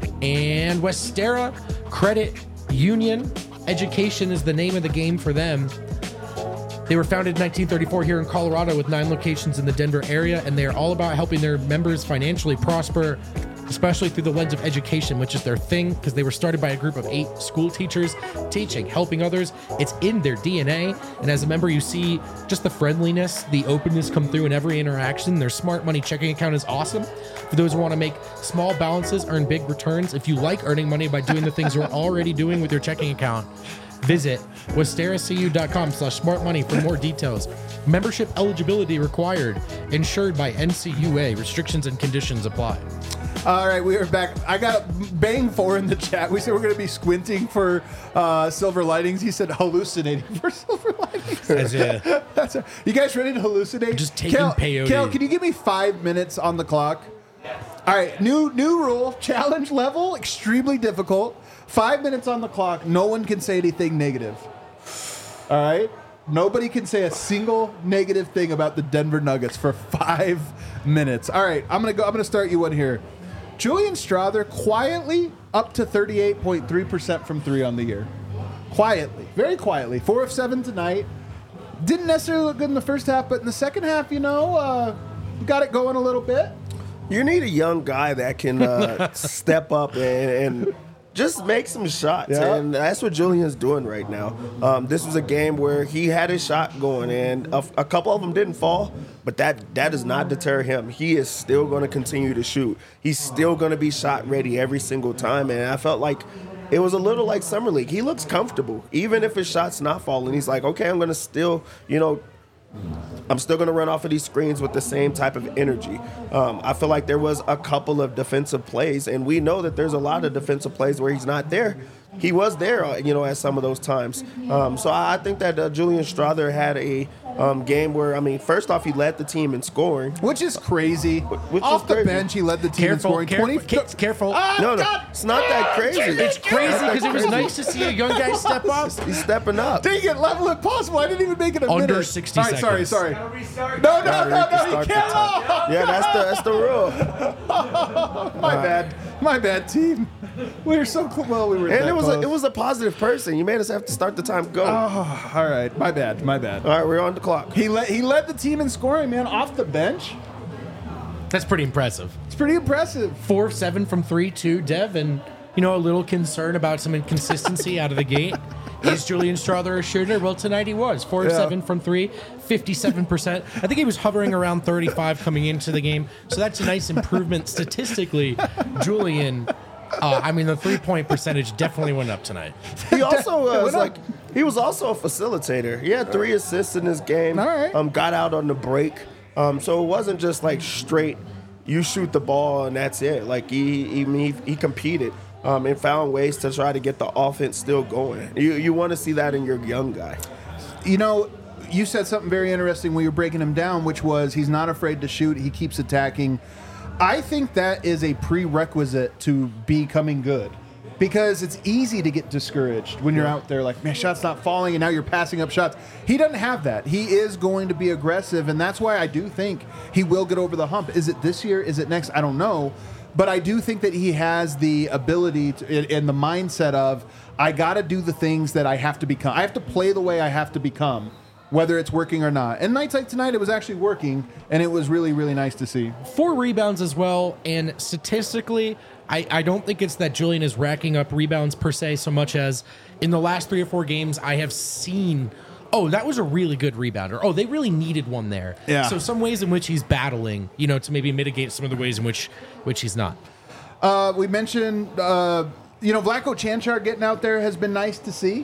And Westera Credit Union. Education is the name of the game for them. They were founded in 1934 here in Colorado with 9 locations in the Denver area, and they are all about helping their members financially prosper, especially through the lens of education, which is their thing, because they were started by a group of 8 school teachers teaching, helping others. It's in their DNA. And as a member, you see just the friendliness, the openness come through in every interaction. Their Smart Money checking account is awesome. For those who want to make small balances, earn big returns. If you like earning money by doing the things you're already doing with your checking account, visit westeracu.com/smartmoney for more details. Membership eligibility required. Insured by NCUA. Restrictions and conditions apply. All right, we are back. I got Bang 4 in the chat. We said we're going to be squinting for silver linings. He said hallucinating for silver linings. You guys ready to hallucinate? Just taking peyote. Kale, can you give me 5 minutes on the clock? All right, new rule. Challenge level, extremely difficult. 5 minutes on the clock. No one can say anything negative. All right? Nobody can say a single negative thing about the Denver Nuggets for 5 minutes. All right, I'm gonna start you one here. Julian Strawther quietly up to 38.3% from 3 on the year. Quietly, very quietly. 4 of 7 tonight. Didn't necessarily look good in the first half, but in the second half, got it going a little bit. You need a young guy that can step up and just make some shots, and that's what Julian's doing right now. This was a game where he had his shot going, and a couple of them didn't fall, but that does not deter him. He is still going to continue to shoot. He's still going to be shot ready every single time, and I felt like it was a little like Summer League. He looks comfortable, even if his shot's not falling. He's like, okay, I'm going to still, I'm still going to run off of these screens with the same type of energy. I feel like there was a couple of defensive plays, and we know that there's a lot of defensive plays where he's not there. He was there, at some of those times. So I think that Julian Strawther had a game where, first off, he led the team in scoring. Which is crazy. Which Off is the crazy. bench, he led the team in scoring. Careful. No, it's not that crazy. It's crazy because it was nice to see a young guy step up. He's stepping up. Dang it, level it possible. I didn't even make it a Under minute. 60 All right, seconds. sorry. Gotta No, restart you the time. can't. Yeah, that's the rule. My bad, team. We were so close. Well, we were. And that it close. was a positive person. You made us have to start the time go. Oh, all right, my bad. All right, we're on the clock. He led the team in scoring, man, off the bench. That's pretty impressive. It's pretty impressive. 4 of 7 from 3 too, Dev, and a little concern about some inconsistency out of the gate. Is Julian Strawther a shooter? Well, tonight he was. 4 of 7 from 3, 57%. I think he was hovering around 35 coming into the game, so that's a nice improvement statistically. Julian, the 3-point percentage definitely went up tonight. He also he was also a facilitator. He had 3 assists in this game. All right. Got out on the break. So it wasn't just like straight, you shoot the ball and that's it. Like he competed. And found ways to try to get the offense still going. You want to see that in your young guy. You said something very interesting when you were breaking him down, which was he's not afraid to shoot. He keeps attacking. I think that is a prerequisite to becoming good, because it's easy to get discouraged when you're out there like, man, shot's not falling, and now you're passing up shots. He doesn't have that. He is going to be aggressive, and that's why I do think he will get over the hump. Is it this year? Is it next? I don't know. But I do think that he has the ability to, and the mindset of, I got to do the things that I have to become. I have to play the way I have to become, whether it's working or not. And nights like tonight, it was actually working, and it was really, really nice to see. 4 rebounds as well, and statistically, I don't think it's that Julian is racking up rebounds per se so much as in the last 3 or 4 games I have seen, that was a really good rebounder. they really needed one there. Yeah. So some ways in which he's battling, to maybe mitigate some of the ways in which he's not. We mentioned, Vlatko Chanchar getting out there has been nice to see.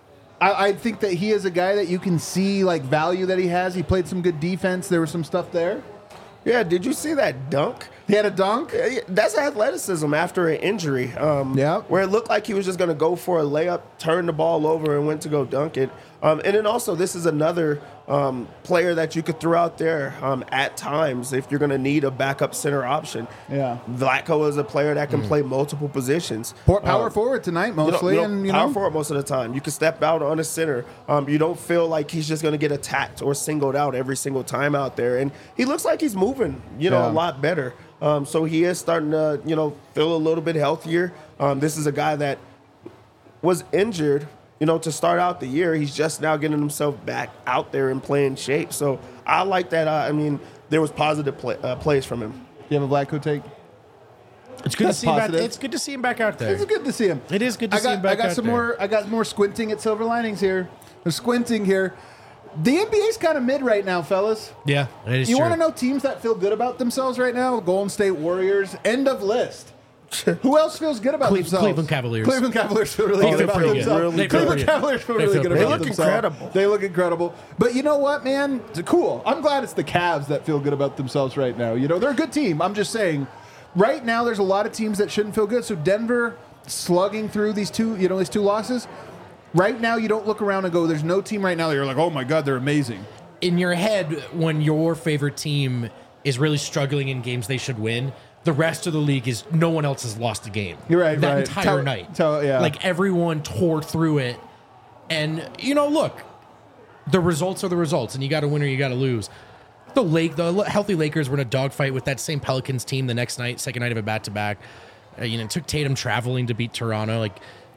I think that he is a guy that you can see value that he has. He played some good defense. There was some stuff there. Yeah, did you see that dunk? He had a dunk? Yeah, that's athleticism after an injury. Where it looked like he was just going to go for a layup, turn the ball over, and went to go dunk it. And then also, this is another player that you could throw out there at times if you're going to need a backup center option. Yeah. Vlatko is a player that can play multiple positions. Power forward tonight mostly. Power forward most of the time. You can step out on a center. You don't feel like he's just going to get attacked or singled out every single time out there. And he looks like he's moving, a lot better. So he is starting to, feel a little bit healthier. This is a guy that was injured, to start out the year. He's just now getting himself back out there and playing shape. So I like that. There was positive plays from him. You have a Vlatko take? It's good to see him back. It's good to see him back out there. It's good to see him. It is good to see him back out there. I got more squinting at silver linings here. I'm squinting here. The NBA's kind of mid right now, fellas. Yeah, it is You true. want to know teams that feel good about themselves right now? Golden State Warriors. End of list. Who else feels good about themselves? Cleveland Cavaliers. Cleveland Cavaliers feel really good feel about pretty good. themselves. They feel Cleveland pretty good. Cavaliers feel They really feel good pretty about good. themselves. Incredible. They look incredible. But you know what, man? It's cool. I'm glad it's the Cavs that feel good about themselves right now. They're a good team. I'm just saying, right now there's a lot of teams that shouldn't feel good. So Denver slugging through these two losses. Right now, you don't look around and go, there's no team right now that you're like, oh my God, they're amazing. In your head, when your favorite team is really struggling in games they should win, the rest of the league is no one else has lost a game. You're right. That right. entire night. Yeah. Like everyone tore through it. And, look, the results are the results, and you got to win or you got to lose. The healthy Lakers were in a dogfight with that same Pelicans team the next night, second night of a back-to-back. It took Tatum traveling to beat Toronto.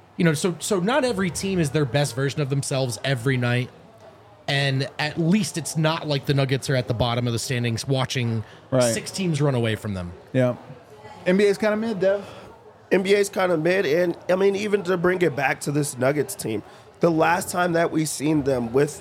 So not every team is their best version of themselves every night. And at least it's not like the Nuggets are at the bottom of the standings watching 6 teams run away from them. Yeah. NBA's kind of mid, Dev. NBA's kind of mid. And, even to bring it back to this Nuggets team, the last time that we seen them with,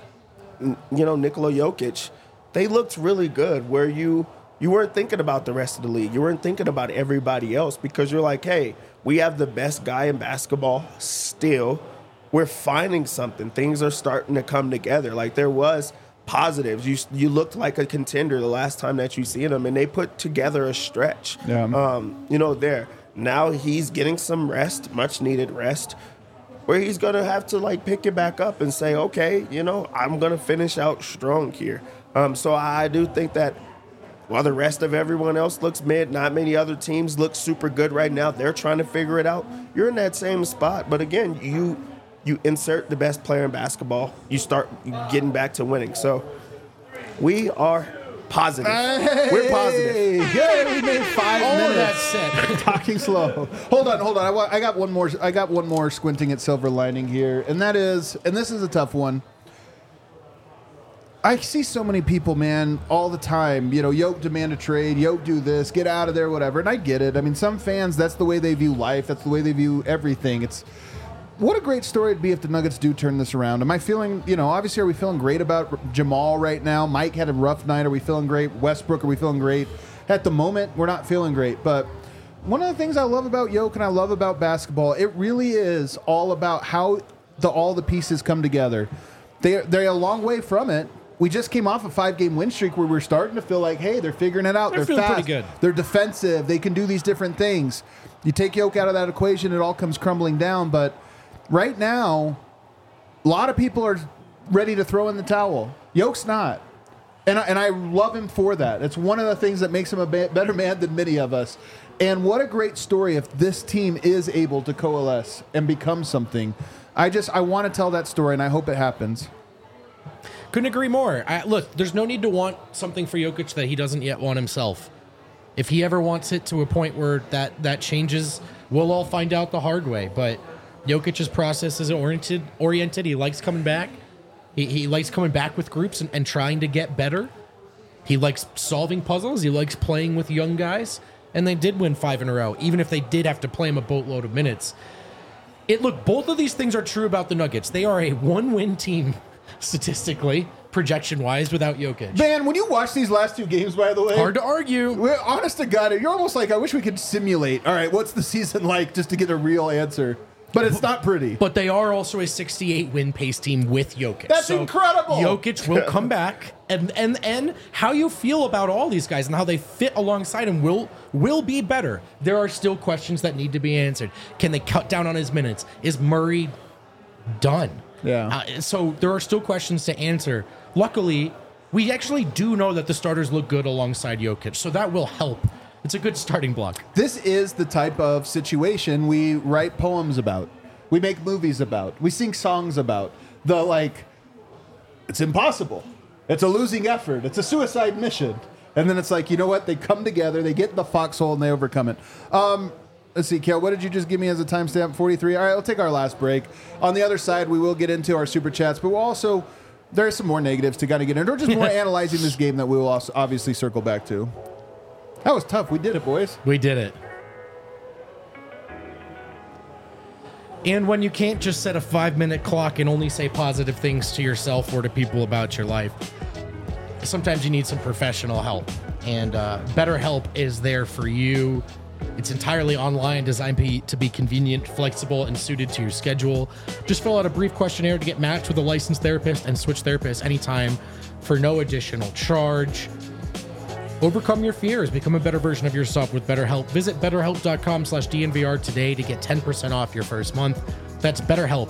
Nikola Jokic, they looked really good where you weren't thinking about the rest of the league. You weren't thinking about everybody else because you're like, hey, we have the best guy in basketball still. We're finding something. Things are starting to come together. Like there was positives. You looked like a contender the last time that you seen them, and they put together a stretch. Yeah. There. Now he's getting some rest, much needed rest, where he's gonna have to like pick it back up and say, okay, I'm gonna finish out strong here. So I do think that while the rest of everyone else looks mid, not many other teams look super good right now. They're trying to figure it out. You're in that same spot, but again, you insert the best player in basketball, you start getting back to winning. So we are positive. Hey, we're positive. Yeah, we made 5 All of minutes. that said, Talking slow. Hold on. I got one more. I got one more squinting at silver lining here, and that is, and this is a tough one. I see so many people, man, all the time. Yoke demand a trade. Yoke do this. Get out of there. Whatever. And I get it. I mean, some fans, that's the way they view life. That's the way they view everything. It's what a great story it'd be if the Nuggets do turn this around. Am I feeling? Obviously, are we feeling great about Jamal right now? Mike had a rough night. Are we feeling great? Westbrook, are we feeling great? At the moment, we're not feeling great. But one of the things I love about Yoke and I love about basketball, it really is all about how all the pieces come together. They're a long way from it. We just came off a 5-game win streak where we're starting to feel like, hey, they're figuring it out. They're They're feeling fast. pretty good. They're defensive. They can do these different things. You take Yoke out of that equation, it all comes crumbling down. But right now, a lot of people are ready to throw in the towel. Yoke's not. And I love him for that. It's one of the things that makes him a better man than many of us. And what a great story if this team is able to coalesce and become something. I want to tell that story, and I hope it happens. couldn't agree more. Look, there's no need to want something for Jokic that he doesn't yet want himself. If he ever wants it to a point where that changes, we'll all find out the hard way. But Jokic's process is oriented. He likes coming back. He likes coming back with groups and trying to get better. He likes solving puzzles. He likes playing with young guys. And they did win 5 in a row, even if they did have to play him a boatload of minutes. Look, both of these things are true about the Nuggets. They are a one-win team, statistically, projection-wise, without Jokic. Man, when you watch these last 2 games, by the way, Hard to argue. we're honest to God, you're almost like, I wish we could simulate. All right, what's the season like, just to get a real answer? But it's not pretty. But they are also a 68-win pace team with Jokic. That's incredible. Jokic will come back, and how you feel about all these guys and how they fit alongside him will be better. There are still questions that need to be answered. Can they cut down on his minutes? Is Murray done? Yeah. So there are still questions to answer. Luckily, we actually do know that the starters look good alongside Jokic, so that will help. It's a good starting block. This is the type of situation we write poems about. We make movies about. We sing songs about. It's impossible. It's a losing effort. It's a suicide mission. And then it's like, you know what? They come together, they get in the foxhole, and they overcome it. Let's see, Kale, what did you just give me as a timestamp? 43? All right, we'll take our last break. On the other side, we will get into our super chats, but we'll also, there are some more negatives to kind of get into, or just more analyzing this game that we will also obviously circle back to. That was tough. We did it, boys. We did it. And when you can't just set a 5-minute clock and only say positive things to yourself or to people about your life, sometimes you need some professional help. And BetterHelp is there for you. It's entirely online, designed to be convenient, flexible, and suited to your schedule. Just fill out a brief questionnaire to get matched with a licensed therapist and switch therapists anytime for no additional charge. Overcome your fears. Become a better version of yourself with BetterHelp. Visit BetterHelp.com/DNVR today to get 10% off your first month. That's BetterHelp,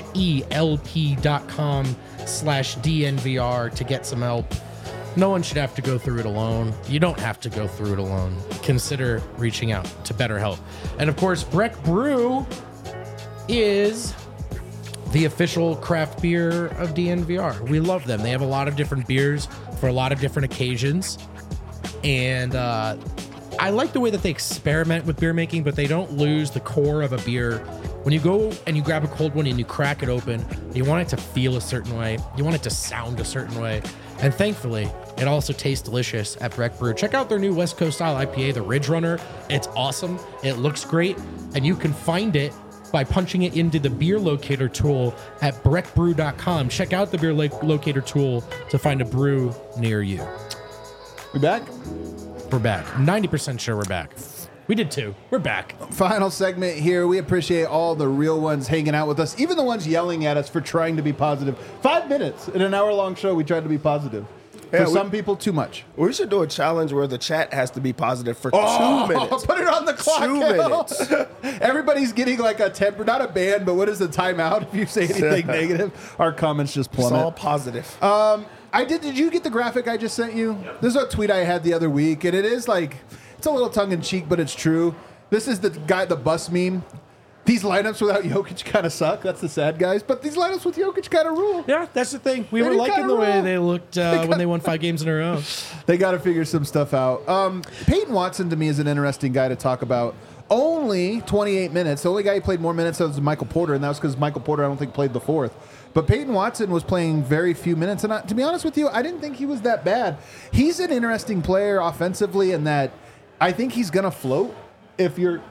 HELP.com/DNVR to get some help. No one should have to go through it alone. You don't have to go through it alone. Consider reaching out to BetterHelp. And of course, Breck Brew is the official craft beer of DNVR. We love them. They have a lot of different beers for a lot of different occasions. And I like the way that they experiment with beer making, but they don't lose the core of a beer. When you go and you grab a cold one and you crack it open, you want it to feel a certain way. You want it to sound a certain way. And thankfully, it also tastes delicious at Breck Brew. Check out their new West Coast style IPA, the Ridge Runner. It's awesome. It looks great. And you can find it by punching it into the beer locator tool at breckbrew.com. Check out the beer locator tool to find a brew near you. We back? We're back. 90% sure we're back. We did too. We're back. Final segment here. We appreciate all the real ones hanging out with us, even the ones yelling at us for trying to be positive. 5 minutes in an hour-long show, we tried to be positive. Yeah, For some people, too much. We should do a challenge where the chat has to be positive for 2 minutes. Put it on the clock. 2 minutes. Everybody's getting like a temper, not a ban, but what is the timeout if you say anything negative? Our comments just It's plummet. all positive. Did you get the graphic I just sent you? This is a tweet I had the other week, and it is like, it's a little tongue-in-cheek, but it's true. This is the bus meme. These lineups without Jokic kind of suck. That's the sad guys. But these lineups with Jokic kind of rule. Yeah, that's the thing. We They were do liking kinda the way roll. they looked when they won 5 games in a row. They got to figure some stuff out. Peyton Watson, to me, is an interesting guy to talk about. Only 28 minutes. The only guy who played more minutes was Michael Porter, and that was because Michael Porter, I don't think, played the fourth. But Peyton Watson was playing very few minutes. And to be honest with you, I didn't think he was that bad. He's an interesting player offensively in that I think he's going to float if you're,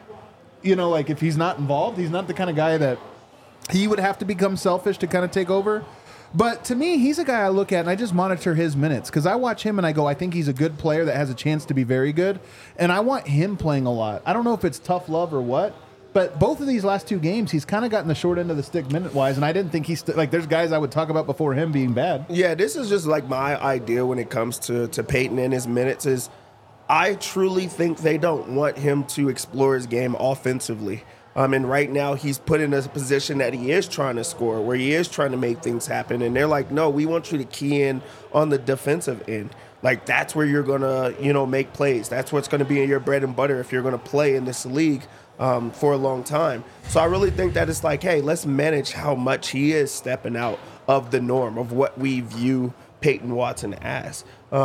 if he's not involved. He's not the kind of guy that he would have to become selfish to kind of take over. But to me, he's a guy I look at and I just monitor his minutes because I watch him and I go, I think he's a good player that has a chance to be very good. And I want him playing a lot. I don't know if it's tough love or what, but both of these last 2 games, he's kind of gotten the short end of the stick minute-wise. And I didn't think he's there's guys I would talk about before him being bad. Yeah, this is just like my idea when it comes to Peyton and his minutes is I truly think they don't want him to explore his game offensively. And right now he's put in a position that he is trying to score, where he is trying to make things happen. And they're like, no, we want you to key in on the defensive end. Like, that's where you're going to, make plays. That's what's going to be in your bread and butter if you're going to play in this league for a long time. So I really think that it's like, hey, let's manage how much he is stepping out of the norm of what we view Peyton Watson as.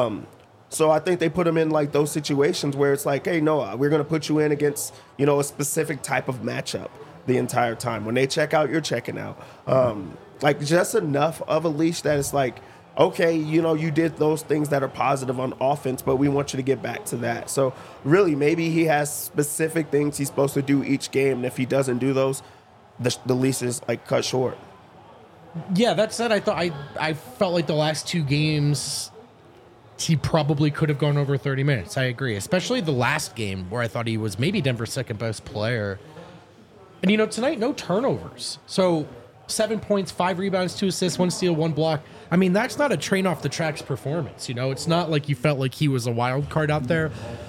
So I think they put him in like those situations where it's like, hey, no, we're going to put you in against, a specific type of matchup the entire time. When they check out, you're checking out. Like just enough of a leash that it's like, okay, you did those things that are positive on offense, but we want you to get back to that. So really, maybe he has specific things he's supposed to do each game. And if he doesn't do those, the leash is like cut short. Yeah, that said, I felt like the last 2 games he probably could have gone over 30 minutes. I agree, especially the last game where I thought he was maybe Denver's second best player. And tonight, no turnovers. So 7 points, 5 rebounds, 2 assists, 1 steal, 1 block. I mean, that's not a train off the tracks performance. It's not like you felt like he was a wild card out there.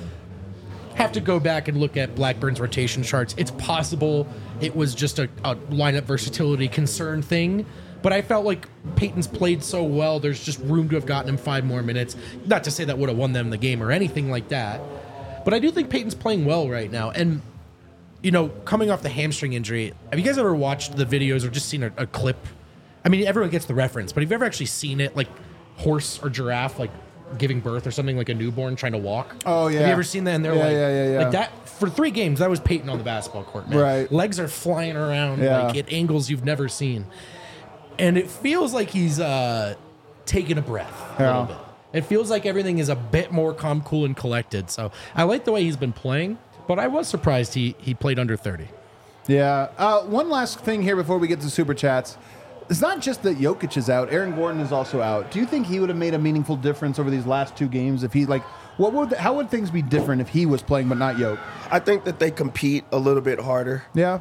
Have to go back and look at Blackburn's rotation charts. It's possible it was just a lineup versatility concern thing. But I felt like Peyton's played so well, there's just room to have gotten him 5 more minutes. Not to say that would have won them the game or anything like that. But I do think Peyton's playing well right now. And, coming off the hamstring injury, have you guys ever watched the videos or just seen a clip? I mean, everyone gets the reference, but have you ever actually seen it, like horse or giraffe, like giving birth or something, like a newborn trying to walk? Oh, yeah. Have you ever seen that? And they're Yeah. like that for 3 games, that was Peyton on the basketball court, man. Right. Legs are flying around Yeah. like at angles you've never seen. And it feels like he's taking a breath a little bit. It feels like everything is a bit more calm, cool, and collected. So I like the way he's been playing, but I was surprised he played under 30. Yeah. One last thing here before we get to Super Chats. It's not just that Jokic is out. Aaron Gordon is also out. Do you think he would have made a meaningful difference over these last 2 games if he, how would things be different if he was playing but not Jokic? I think that they compete a little bit harder. Yeah.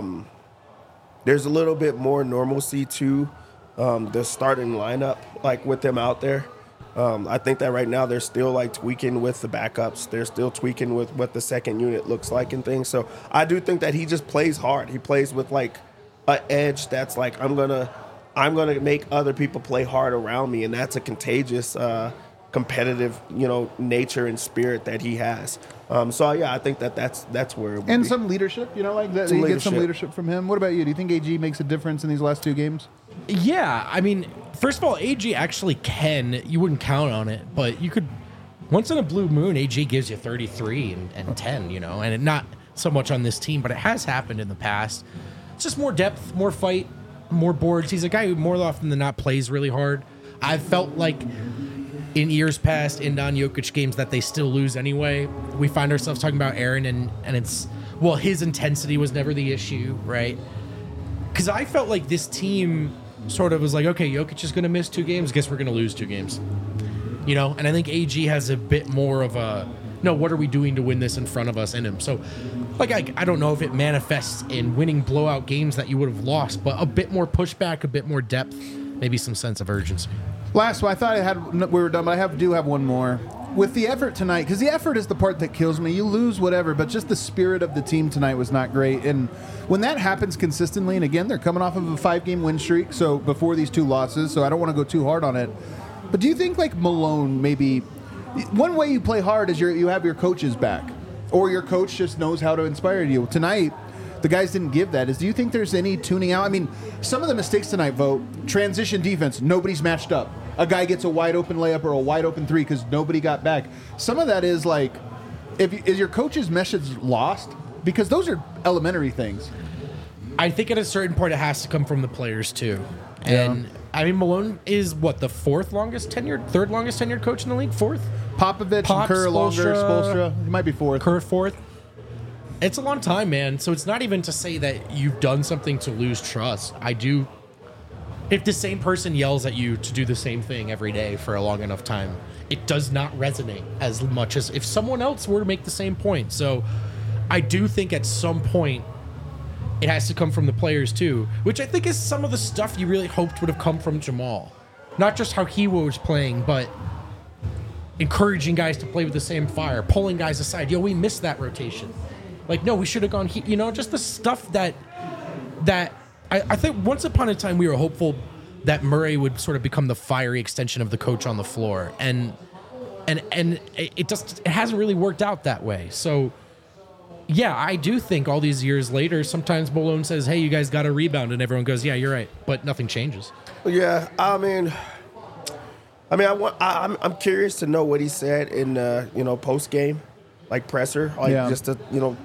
There's a little bit more normalcy to the starting lineup, like with them out there. I think that right now they're still like tweaking with the backups. They're still tweaking with what the second unit looks like and things. So I do think that he just plays hard. He plays with like an edge that's like I'm gonna make other people play hard around me, and that's a contagious competitive, nature and spirit that he has. So yeah, I think that's where it would And be. some leadership, like that. Some You get some leadership. leadership from him. What about you? Do you think AG makes a difference in these last 2 games? Yeah, I mean, first of all, AG actually can. You wouldn't count on it, but you could. Once in a blue moon, AG gives you 33 and 10, and it not so much on this team, but it has happened in the past. It's just more depth, more fight, more boards. He's a guy who more often than not plays really hard. I've felt like in years past in non-Jokic games that they still lose anyway. We find ourselves talking about Aaron and it's, well, his intensity was never the issue, right? Because I felt like this team sort of was like, okay, Jokic is going to miss 2 games. Guess we're going to lose 2 games. And I think AG has a bit more of a, no, what are we doing to win this in front of us in him? So, like, I don't know if it manifests in winning blowout games that you would have lost, but a bit more pushback, a bit more depth, maybe some sense of urgency. Last one, I thought we were done, but I do have one more. With the effort tonight, because the effort is the part that kills me. You lose, whatever, but just the spirit of the team tonight was not great. And when that happens consistently, and again, they're coming off of a 5-game win streak, so before these 2 losses, so I don't want to go too hard on it. But do you think, like, Malone maybe... One way you play hard is you have your coaches back, or your coach just knows how to inspire you. Tonight, the guys didn't give that. Do you think there's any tuning out? I mean, some of the mistakes tonight, transition defense, nobody's matched up. A guy gets a wide open layup or a wide open 3 because nobody got back. Some of that is like, is your coach's message lost? Because those are elementary things. I think at a certain point it has to come from the players too. Yeah. And I mean, Malone is what, the third longest tenured coach in the league? Fourth? Popovich Pop, and Kerr longer, Spoelstra. Spoelstra. He might be fourth. Kerr fourth. It's a long time, man. So it's not even to say that you've done something to lose trust. If the same person yells at you to do the same thing every day for a long enough time, it does not resonate as much as if someone else were to make the same point. So I do think at some point it has to come from the players too, which I think is some of the stuff you really hoped would have come from Jamal. Not just how he was playing, but encouraging guys to play with the same fire, pulling guys aside. We missed that rotation. Like, no, we should have gone, just the stuff that I think once upon a time we were hopeful that Murray would sort of become the fiery extension of the coach on the floor. And it hasn't really worked out that way. So, yeah, I do think all these years later, sometimes Malone says, hey, you guys got to rebound. And everyone goes, yeah, you're right. But nothing changes. Yeah, I'm curious to know what he said in post game, like presser, just to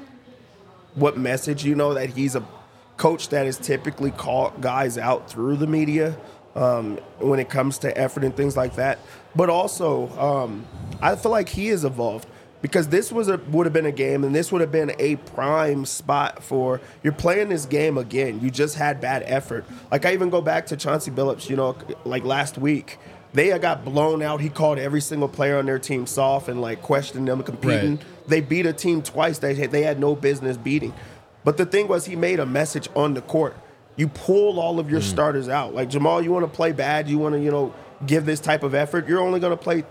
what message that he's a coach that has typically called guys out through the media when it comes to effort and things like that. But also, I feel like he has evolved because this would have been a game, and this would have been a prime spot for you're playing this game again. You just had bad effort. Like I even go back to Chauncey Billups, like last week. They got blown out. He called every single player on their team soft and questioned them competing. Right. They beat a team twice they had no business beating. But the thing was, he made a message on the court. You pull all of your starters out. Like, Jamal, you want to play bad, you want to, give this type of effort, you're only going to play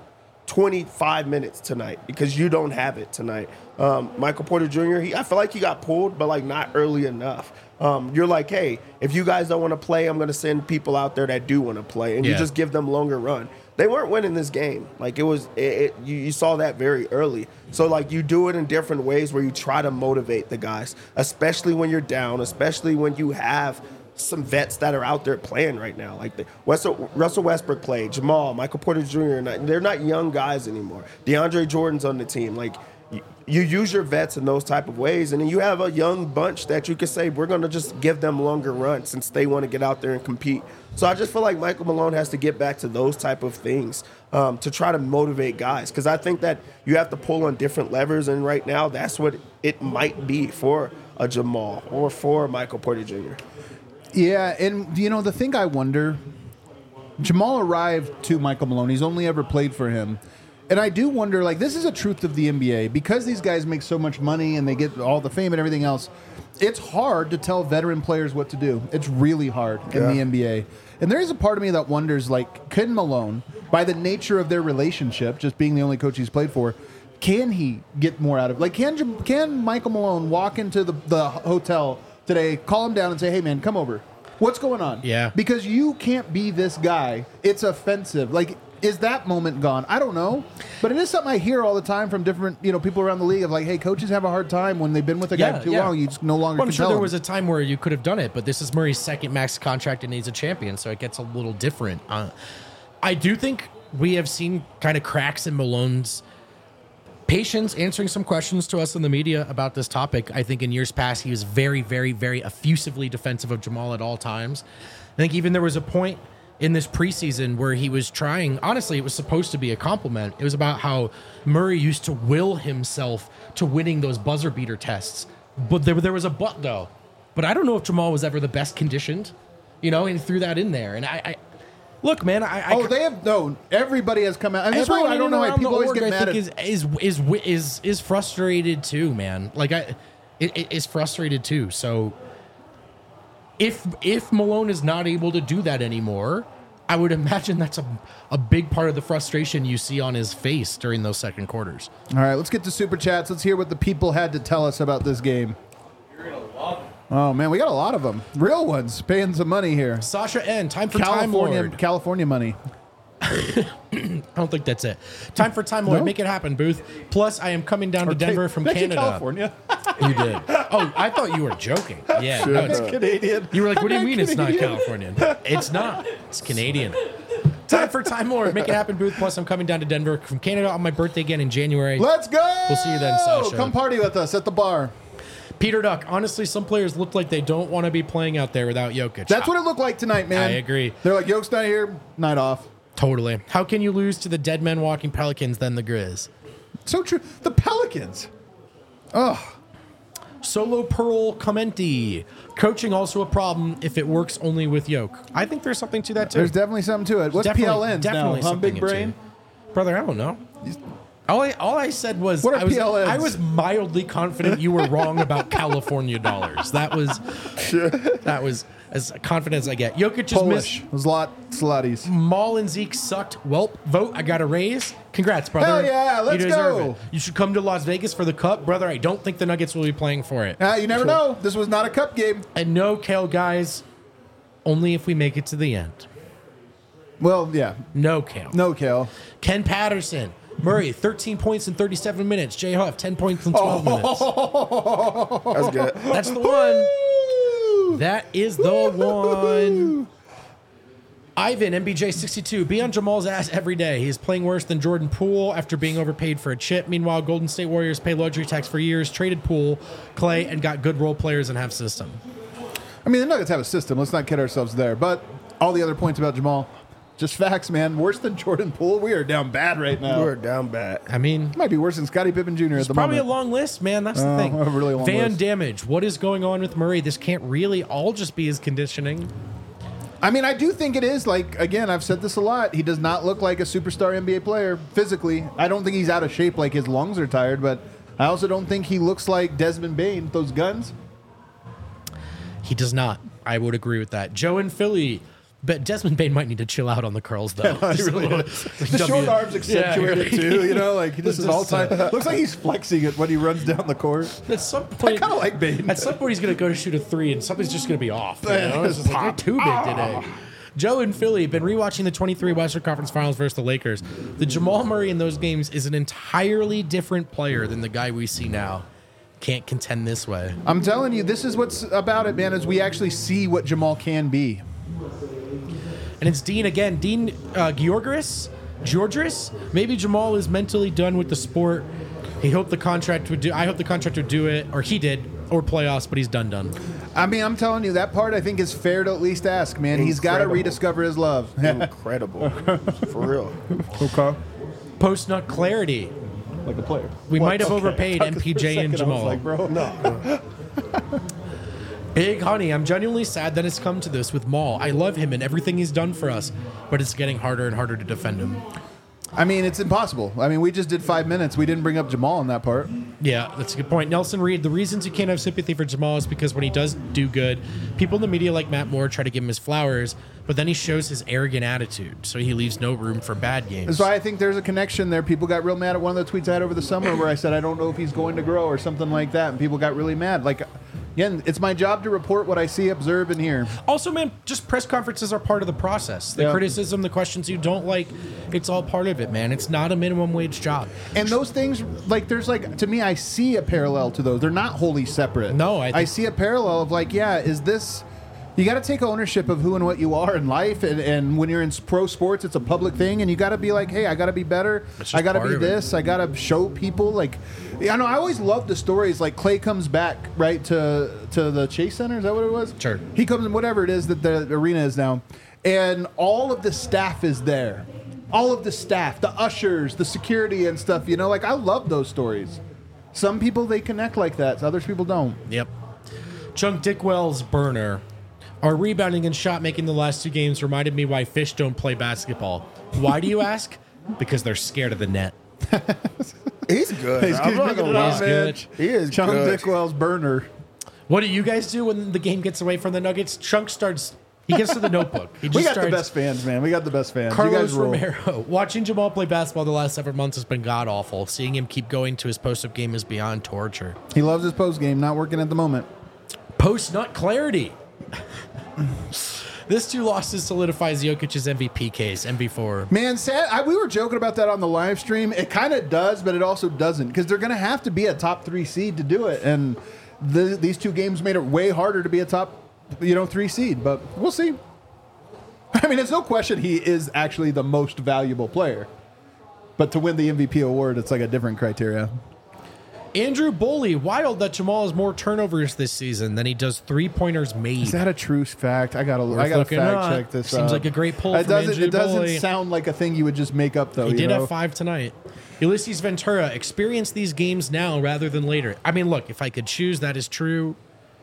25 minutes tonight because you don't have it tonight. Michael Porter Jr., I feel like he got pulled, but, not early enough. You're like, hey, if you guys don't want to play, I'm going to send people out there that do want to play, and you just give them longer run. They weren't winning this game. You saw that very early. So, you do it in different ways where you try to motivate the guys, especially when you're down, especially when you have some vets that are out there playing right now. Russell Westbrook played, Jamal, Michael Porter Jr., they're not young guys anymore. DeAndre Jordan's on the team. You use your vets in those type of ways, and then you have a young bunch that you could say, we're going to just give them longer runs since they want to get out there and compete. So I just feel like Michael Malone has to get back to those type of things to try to motivate guys, because I think that you have to pull on different levers, and right now that's what it might be for a Jamal or for Michael Porter Jr. Yeah, and the thing I wonder, Jamal arrived to Michael Malone. He's only ever played for him. And I do wonder, this is a truth of the NBA. Because these guys make so much money and they get all the fame and everything else, it's hard to tell veteran players what to do. It's really hard in the NBA. And there is a part of me that wonders, can Malone, by the nature of their relationship, just being the only coach he's played for, can he get more out of it? Can Michael Malone walk into the hotel today, call him down and say, hey, man, come over. What's going on? Yeah. Because you can't be this guy. It's offensive. Is that moment gone? I don't know. But it is something I hear all the time from different, people around the league of hey, coaches have a hard time when they've been with a guy for too long. You just no longer I'm can sure tell there them. was a time where you could have done it, but this is Murray's second max contract and he's a champion, so it gets a little different. I do think we have seen kind of cracks in Malone's patience answering some questions to us in the media about this topic. I think in years past, he was very, very, very effusively defensive of Jamal at all times. I think even there was a point in this preseason where he was trying, honestly, it was supposed to be a compliment. It was about how Murray used to will himself to winning those buzzer beater tests. But there was a but, though. But I don't know if Jamal was ever the best conditioned, and he threw that in there. And Look, man, they have no. Everybody has come out, and that's why everyone I in don't and know why around people the always org, get I mad think at. is frustrated too, man. Like is frustrated too. So if Malone is not able to do that anymore, I would imagine that's a big part of the frustration you see on his face during those second quarters. All right, let's get to super chats. Let's hear what the people had to tell us about this game. You're gonna love it. Oh man, we got a lot of them. Real ones paying some money here. Sasha N, time for Time Lord. California money. I don't think that's it. Time for Time Lord. No? Make it happen, Booth. Plus, I am coming down to Denver from Thank you, Canada. California. You did. Oh, I thought you were joking. Yeah, no, it's Canadian. You were like, what do you mean it's not Canadian. Californian? It's not. It's Canadian. Time for Time Lord. Make it happen, Booth. Plus, I'm coming down to Denver from Canada on my birthday again in January. Let's go. We'll see you then, Sasha. Come party with us at the bar. Peter Duck. Honestly, some players look like they don't want to be playing out there without Jokic. That's what it looked like tonight, man. I agree. They're like, Yoke's not here, night off. Totally. How can you lose to the dead men walking Pelicans than the Grizz? So true. The Pelicans. Ugh. Solo Pearl Commenti. Coaching also a problem if it works only with Yoke. I think there's something to that too. There's definitely something to it. What's PLNs now? Huh, something big brain? Brother, I don't know. All I said was What are I was, PLNs? I was mildly confident you were wrong about California dollars. That was as confident as I get. Jokic just Polish. missed. There's a lot slutties. Maul and Zeke sucked. Welp, vote. I got a raise. Congrats, brother. Hell yeah, let's you deserve go. It. You should come to Las Vegas for the Cup, brother. I don't think the Nuggets will be playing for it. You never know. This was not a cup game. And no, Kale, guys, only if we make it to the end. Well, yeah. No, Kale. No, Kale. Ken Patterson. Murray, 13 points in 37 minutes. Jay Huff, 10 points in 12 minutes. That's good. That's the one. That is the one. Ivan, MBJ62, be on Jamal's ass every day. He's playing worse than Jordan Poole after being overpaid for a chip. Meanwhile, Golden State Warriors pay luxury tax for years, traded Poole, Clay, and got good role players and have system. I mean, the Nuggets have a system. Let's not kid ourselves there. But all the other points about Jamal, just facts, man. Worse than Jordan Poole. We are down bad right now. We're down bad. I mean, Might be worse than Scottie Pippen Jr. at the probably moment. a long list, man. That's the thing. a really long Van list. Damage. What is going on with Murray? This can't really all just be his conditioning. I mean, I do think it is. Like, again, I've said this a lot. He does not look like a superstar NBA player physically. I don't think he's out of shape like his lungs are tired, but I also don't think he looks like Desmond Bane with those guns. He does not. I would agree with that. Joe in Philly. But Desmond Bane might need to chill out on the curls, though. Just a little- The short arms accentuated too, you know, like he just is all time. Looks like he's flexing it when he runs down the court. At some point, I kind of like Bane. At some point, he's going to go to shoot a three, and something's just going to be off. You know? It's just like, you're too big today. Joe in Philly, been rewatching the 23 Western Conference Finals versus the Lakers. The Jamal Murray in those games is an entirely different player than the guy we see now. Can't contend this way. I'm telling you, this is what's about it, man. Is we actually see what Jamal can be. And it's Dean again. Dean Georgis? Maybe Jamal is mentally done with the sport. He hoped the contract would do. I hope the contract would do it, or he did, or playoffs. But he's done. I mean, I'm telling you, that part I think is fair to at least ask, man. He's got to Incredible. rediscover his love. Incredible. For real. Okay. Post nut clarity. Like a player. We might have overpaid MPJ and Jamal. Like, bro, no. Big Honey, I'm genuinely sad that it's come to this with Maul. I love him and everything he's done for us, but it's getting harder and harder to defend him. I mean, it's impossible. I mean, we just did 5 minutes. We didn't bring up Jamal in that part. Yeah, that's a good point. Nelson Reed, the reasons you can't have sympathy for Jamal is because when he does do good, people in the media like Matt Moore try to give him his flowers, but then he shows his arrogant attitude, so he leaves no room for bad games. That's why I think there's a connection there. People got real mad at one of the tweets I had over the summer where I said, I don't know if he's going to grow or something like that, and people got really mad. Like, again, it's my job to report what I see, observe, and hear. Also, man, just press conferences are part of the process. The criticism, the questions you don't like, it's all part of it, man. It's not a minimum wage job. And those things, like, there's like, to me, I see a parallel to those. They're not wholly separate. No, I see a parallel of like, yeah, is this... You got to take ownership of who and what you are in life, and when you're in pro sports, it's a public thing, and you got to be like, hey, I got to be better. I got to be this. I got to show people. Like, I know I always love the stories. Like Clay comes back right to the Chase Center. Is that what it was? Sure. He comes in whatever it is that the arena is now, and all of the staff is there. All of the staff, the ushers, the security and stuff. You know, like I love those stories. Some people they connect like that. Others people don't. Yep. Chunk Dickwell's burner. Our rebounding and shot making the last 2 games reminded me why fish don't play basketball. Why do you ask? Because they're scared of the net. He's good. He's I'm not gonna lie. He's good. He is Chunk good. Dickwell's burner. What do you guys do when the game gets away from the Nuggets? Chunk starts. He gets to the notebook. He just We got starts, the best fans, man. We got the best fans. you Carlos guys roll. Romero. Watching Jamal play basketball the last several months has been god awful. Seeing him keep going to his post-up game is beyond torture. He loves his post game, not working at the moment. Post-nut clarity. This 2 losses solidifies Jokic's MVP case. MV4. Man, we were joking about that on the live stream. It kind of does, but it also doesn't because they're going to have to be a top 3 seed to do it. And these 2 games made it way harder to be a top 3 seed, but we'll see. I mean, it's no question he is actually the most valuable player. But to win the MVP award, it's like a different criteria. Andrew Boley, wild that Jamal has more turnovers this season than he does 3-pointers made. Is that a true fact? I gotta looking fact up. check this. Seems out. like a great pull It from doesn't. Andrew It doesn't Boley. sound like a thing you would just make up, though. He did know? have 5 tonight. Ulysses Ventura, experience these games now rather than later. I mean, look, if I could choose, that is true.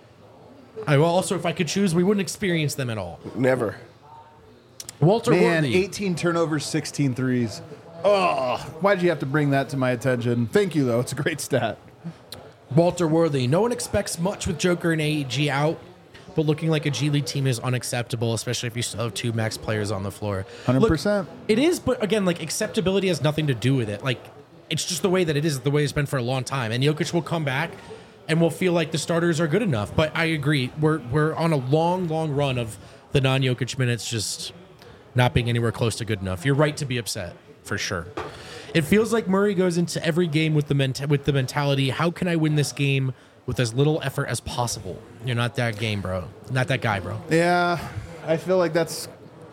If I could choose, we wouldn't experience them at all. Never. Walter Man, Worthy. 18 turnovers, 16 threes. Oh, why did you have to bring that to my attention? Thank you, though. It's a great stat. Walter Worthy. No one expects much with Joker and AEG out, but looking like a G League team is unacceptable, especially if you still have 2 max players on the floor. 100%. Look, it is, but again, like acceptability has nothing to do with it. Like, it's just the way that it is, the way it's been for a long time. And Jokic will come back and we'll feel like the starters are good enough. But I agree. We're on a long, long run of the non-Jokic minutes just not being anywhere close to good enough. You're right to be upset, for sure. It feels like Murray goes into every game with the mentality, how can I win this game with as little effort as possible? You're not that game, bro. Not that guy, bro. Yeah, I feel like that's,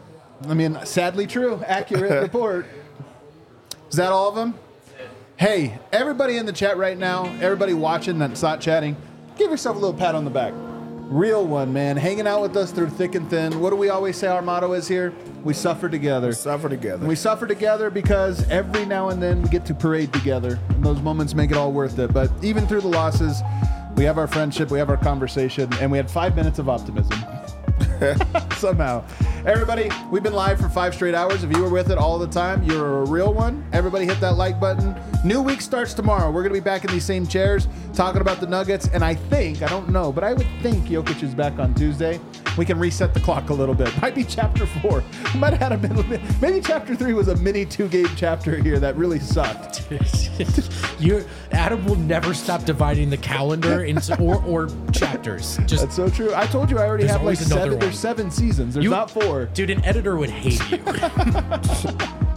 sadly true. Accurate report. Is that all of them? Hey, everybody in the chat right now, everybody watching that's not chatting, give yourself a little pat on the back. Real one, man. Hanging out with us through thick and thin. What do we always say our motto is here? We suffer together. Suffer together. We suffer together because every now and then we get to parade together. And those moments make it all worth it. But even through the losses, we have our friendship, we have our conversation, and we had 5 minutes of optimism. Somehow. Everybody, we've been live for 5 straight hours. If you were with it all the time, you're a real one. Everybody hit that like button. New week starts tomorrow. We're going to be back in these same chairs talking about the Nuggets. And I don't know, but I would think Jokic is back on Tuesday. We can reset the clock a little bit. Might be chapter 4. Might have had maybe chapter 3 was a mini 2-game chapter here that really sucked. Adam will never stop dividing the calendar into or chapters. That's so true. I told you I already There's have like always another 7. one. There's 7 seasons. There's not 4. Dude, an editor would hate you.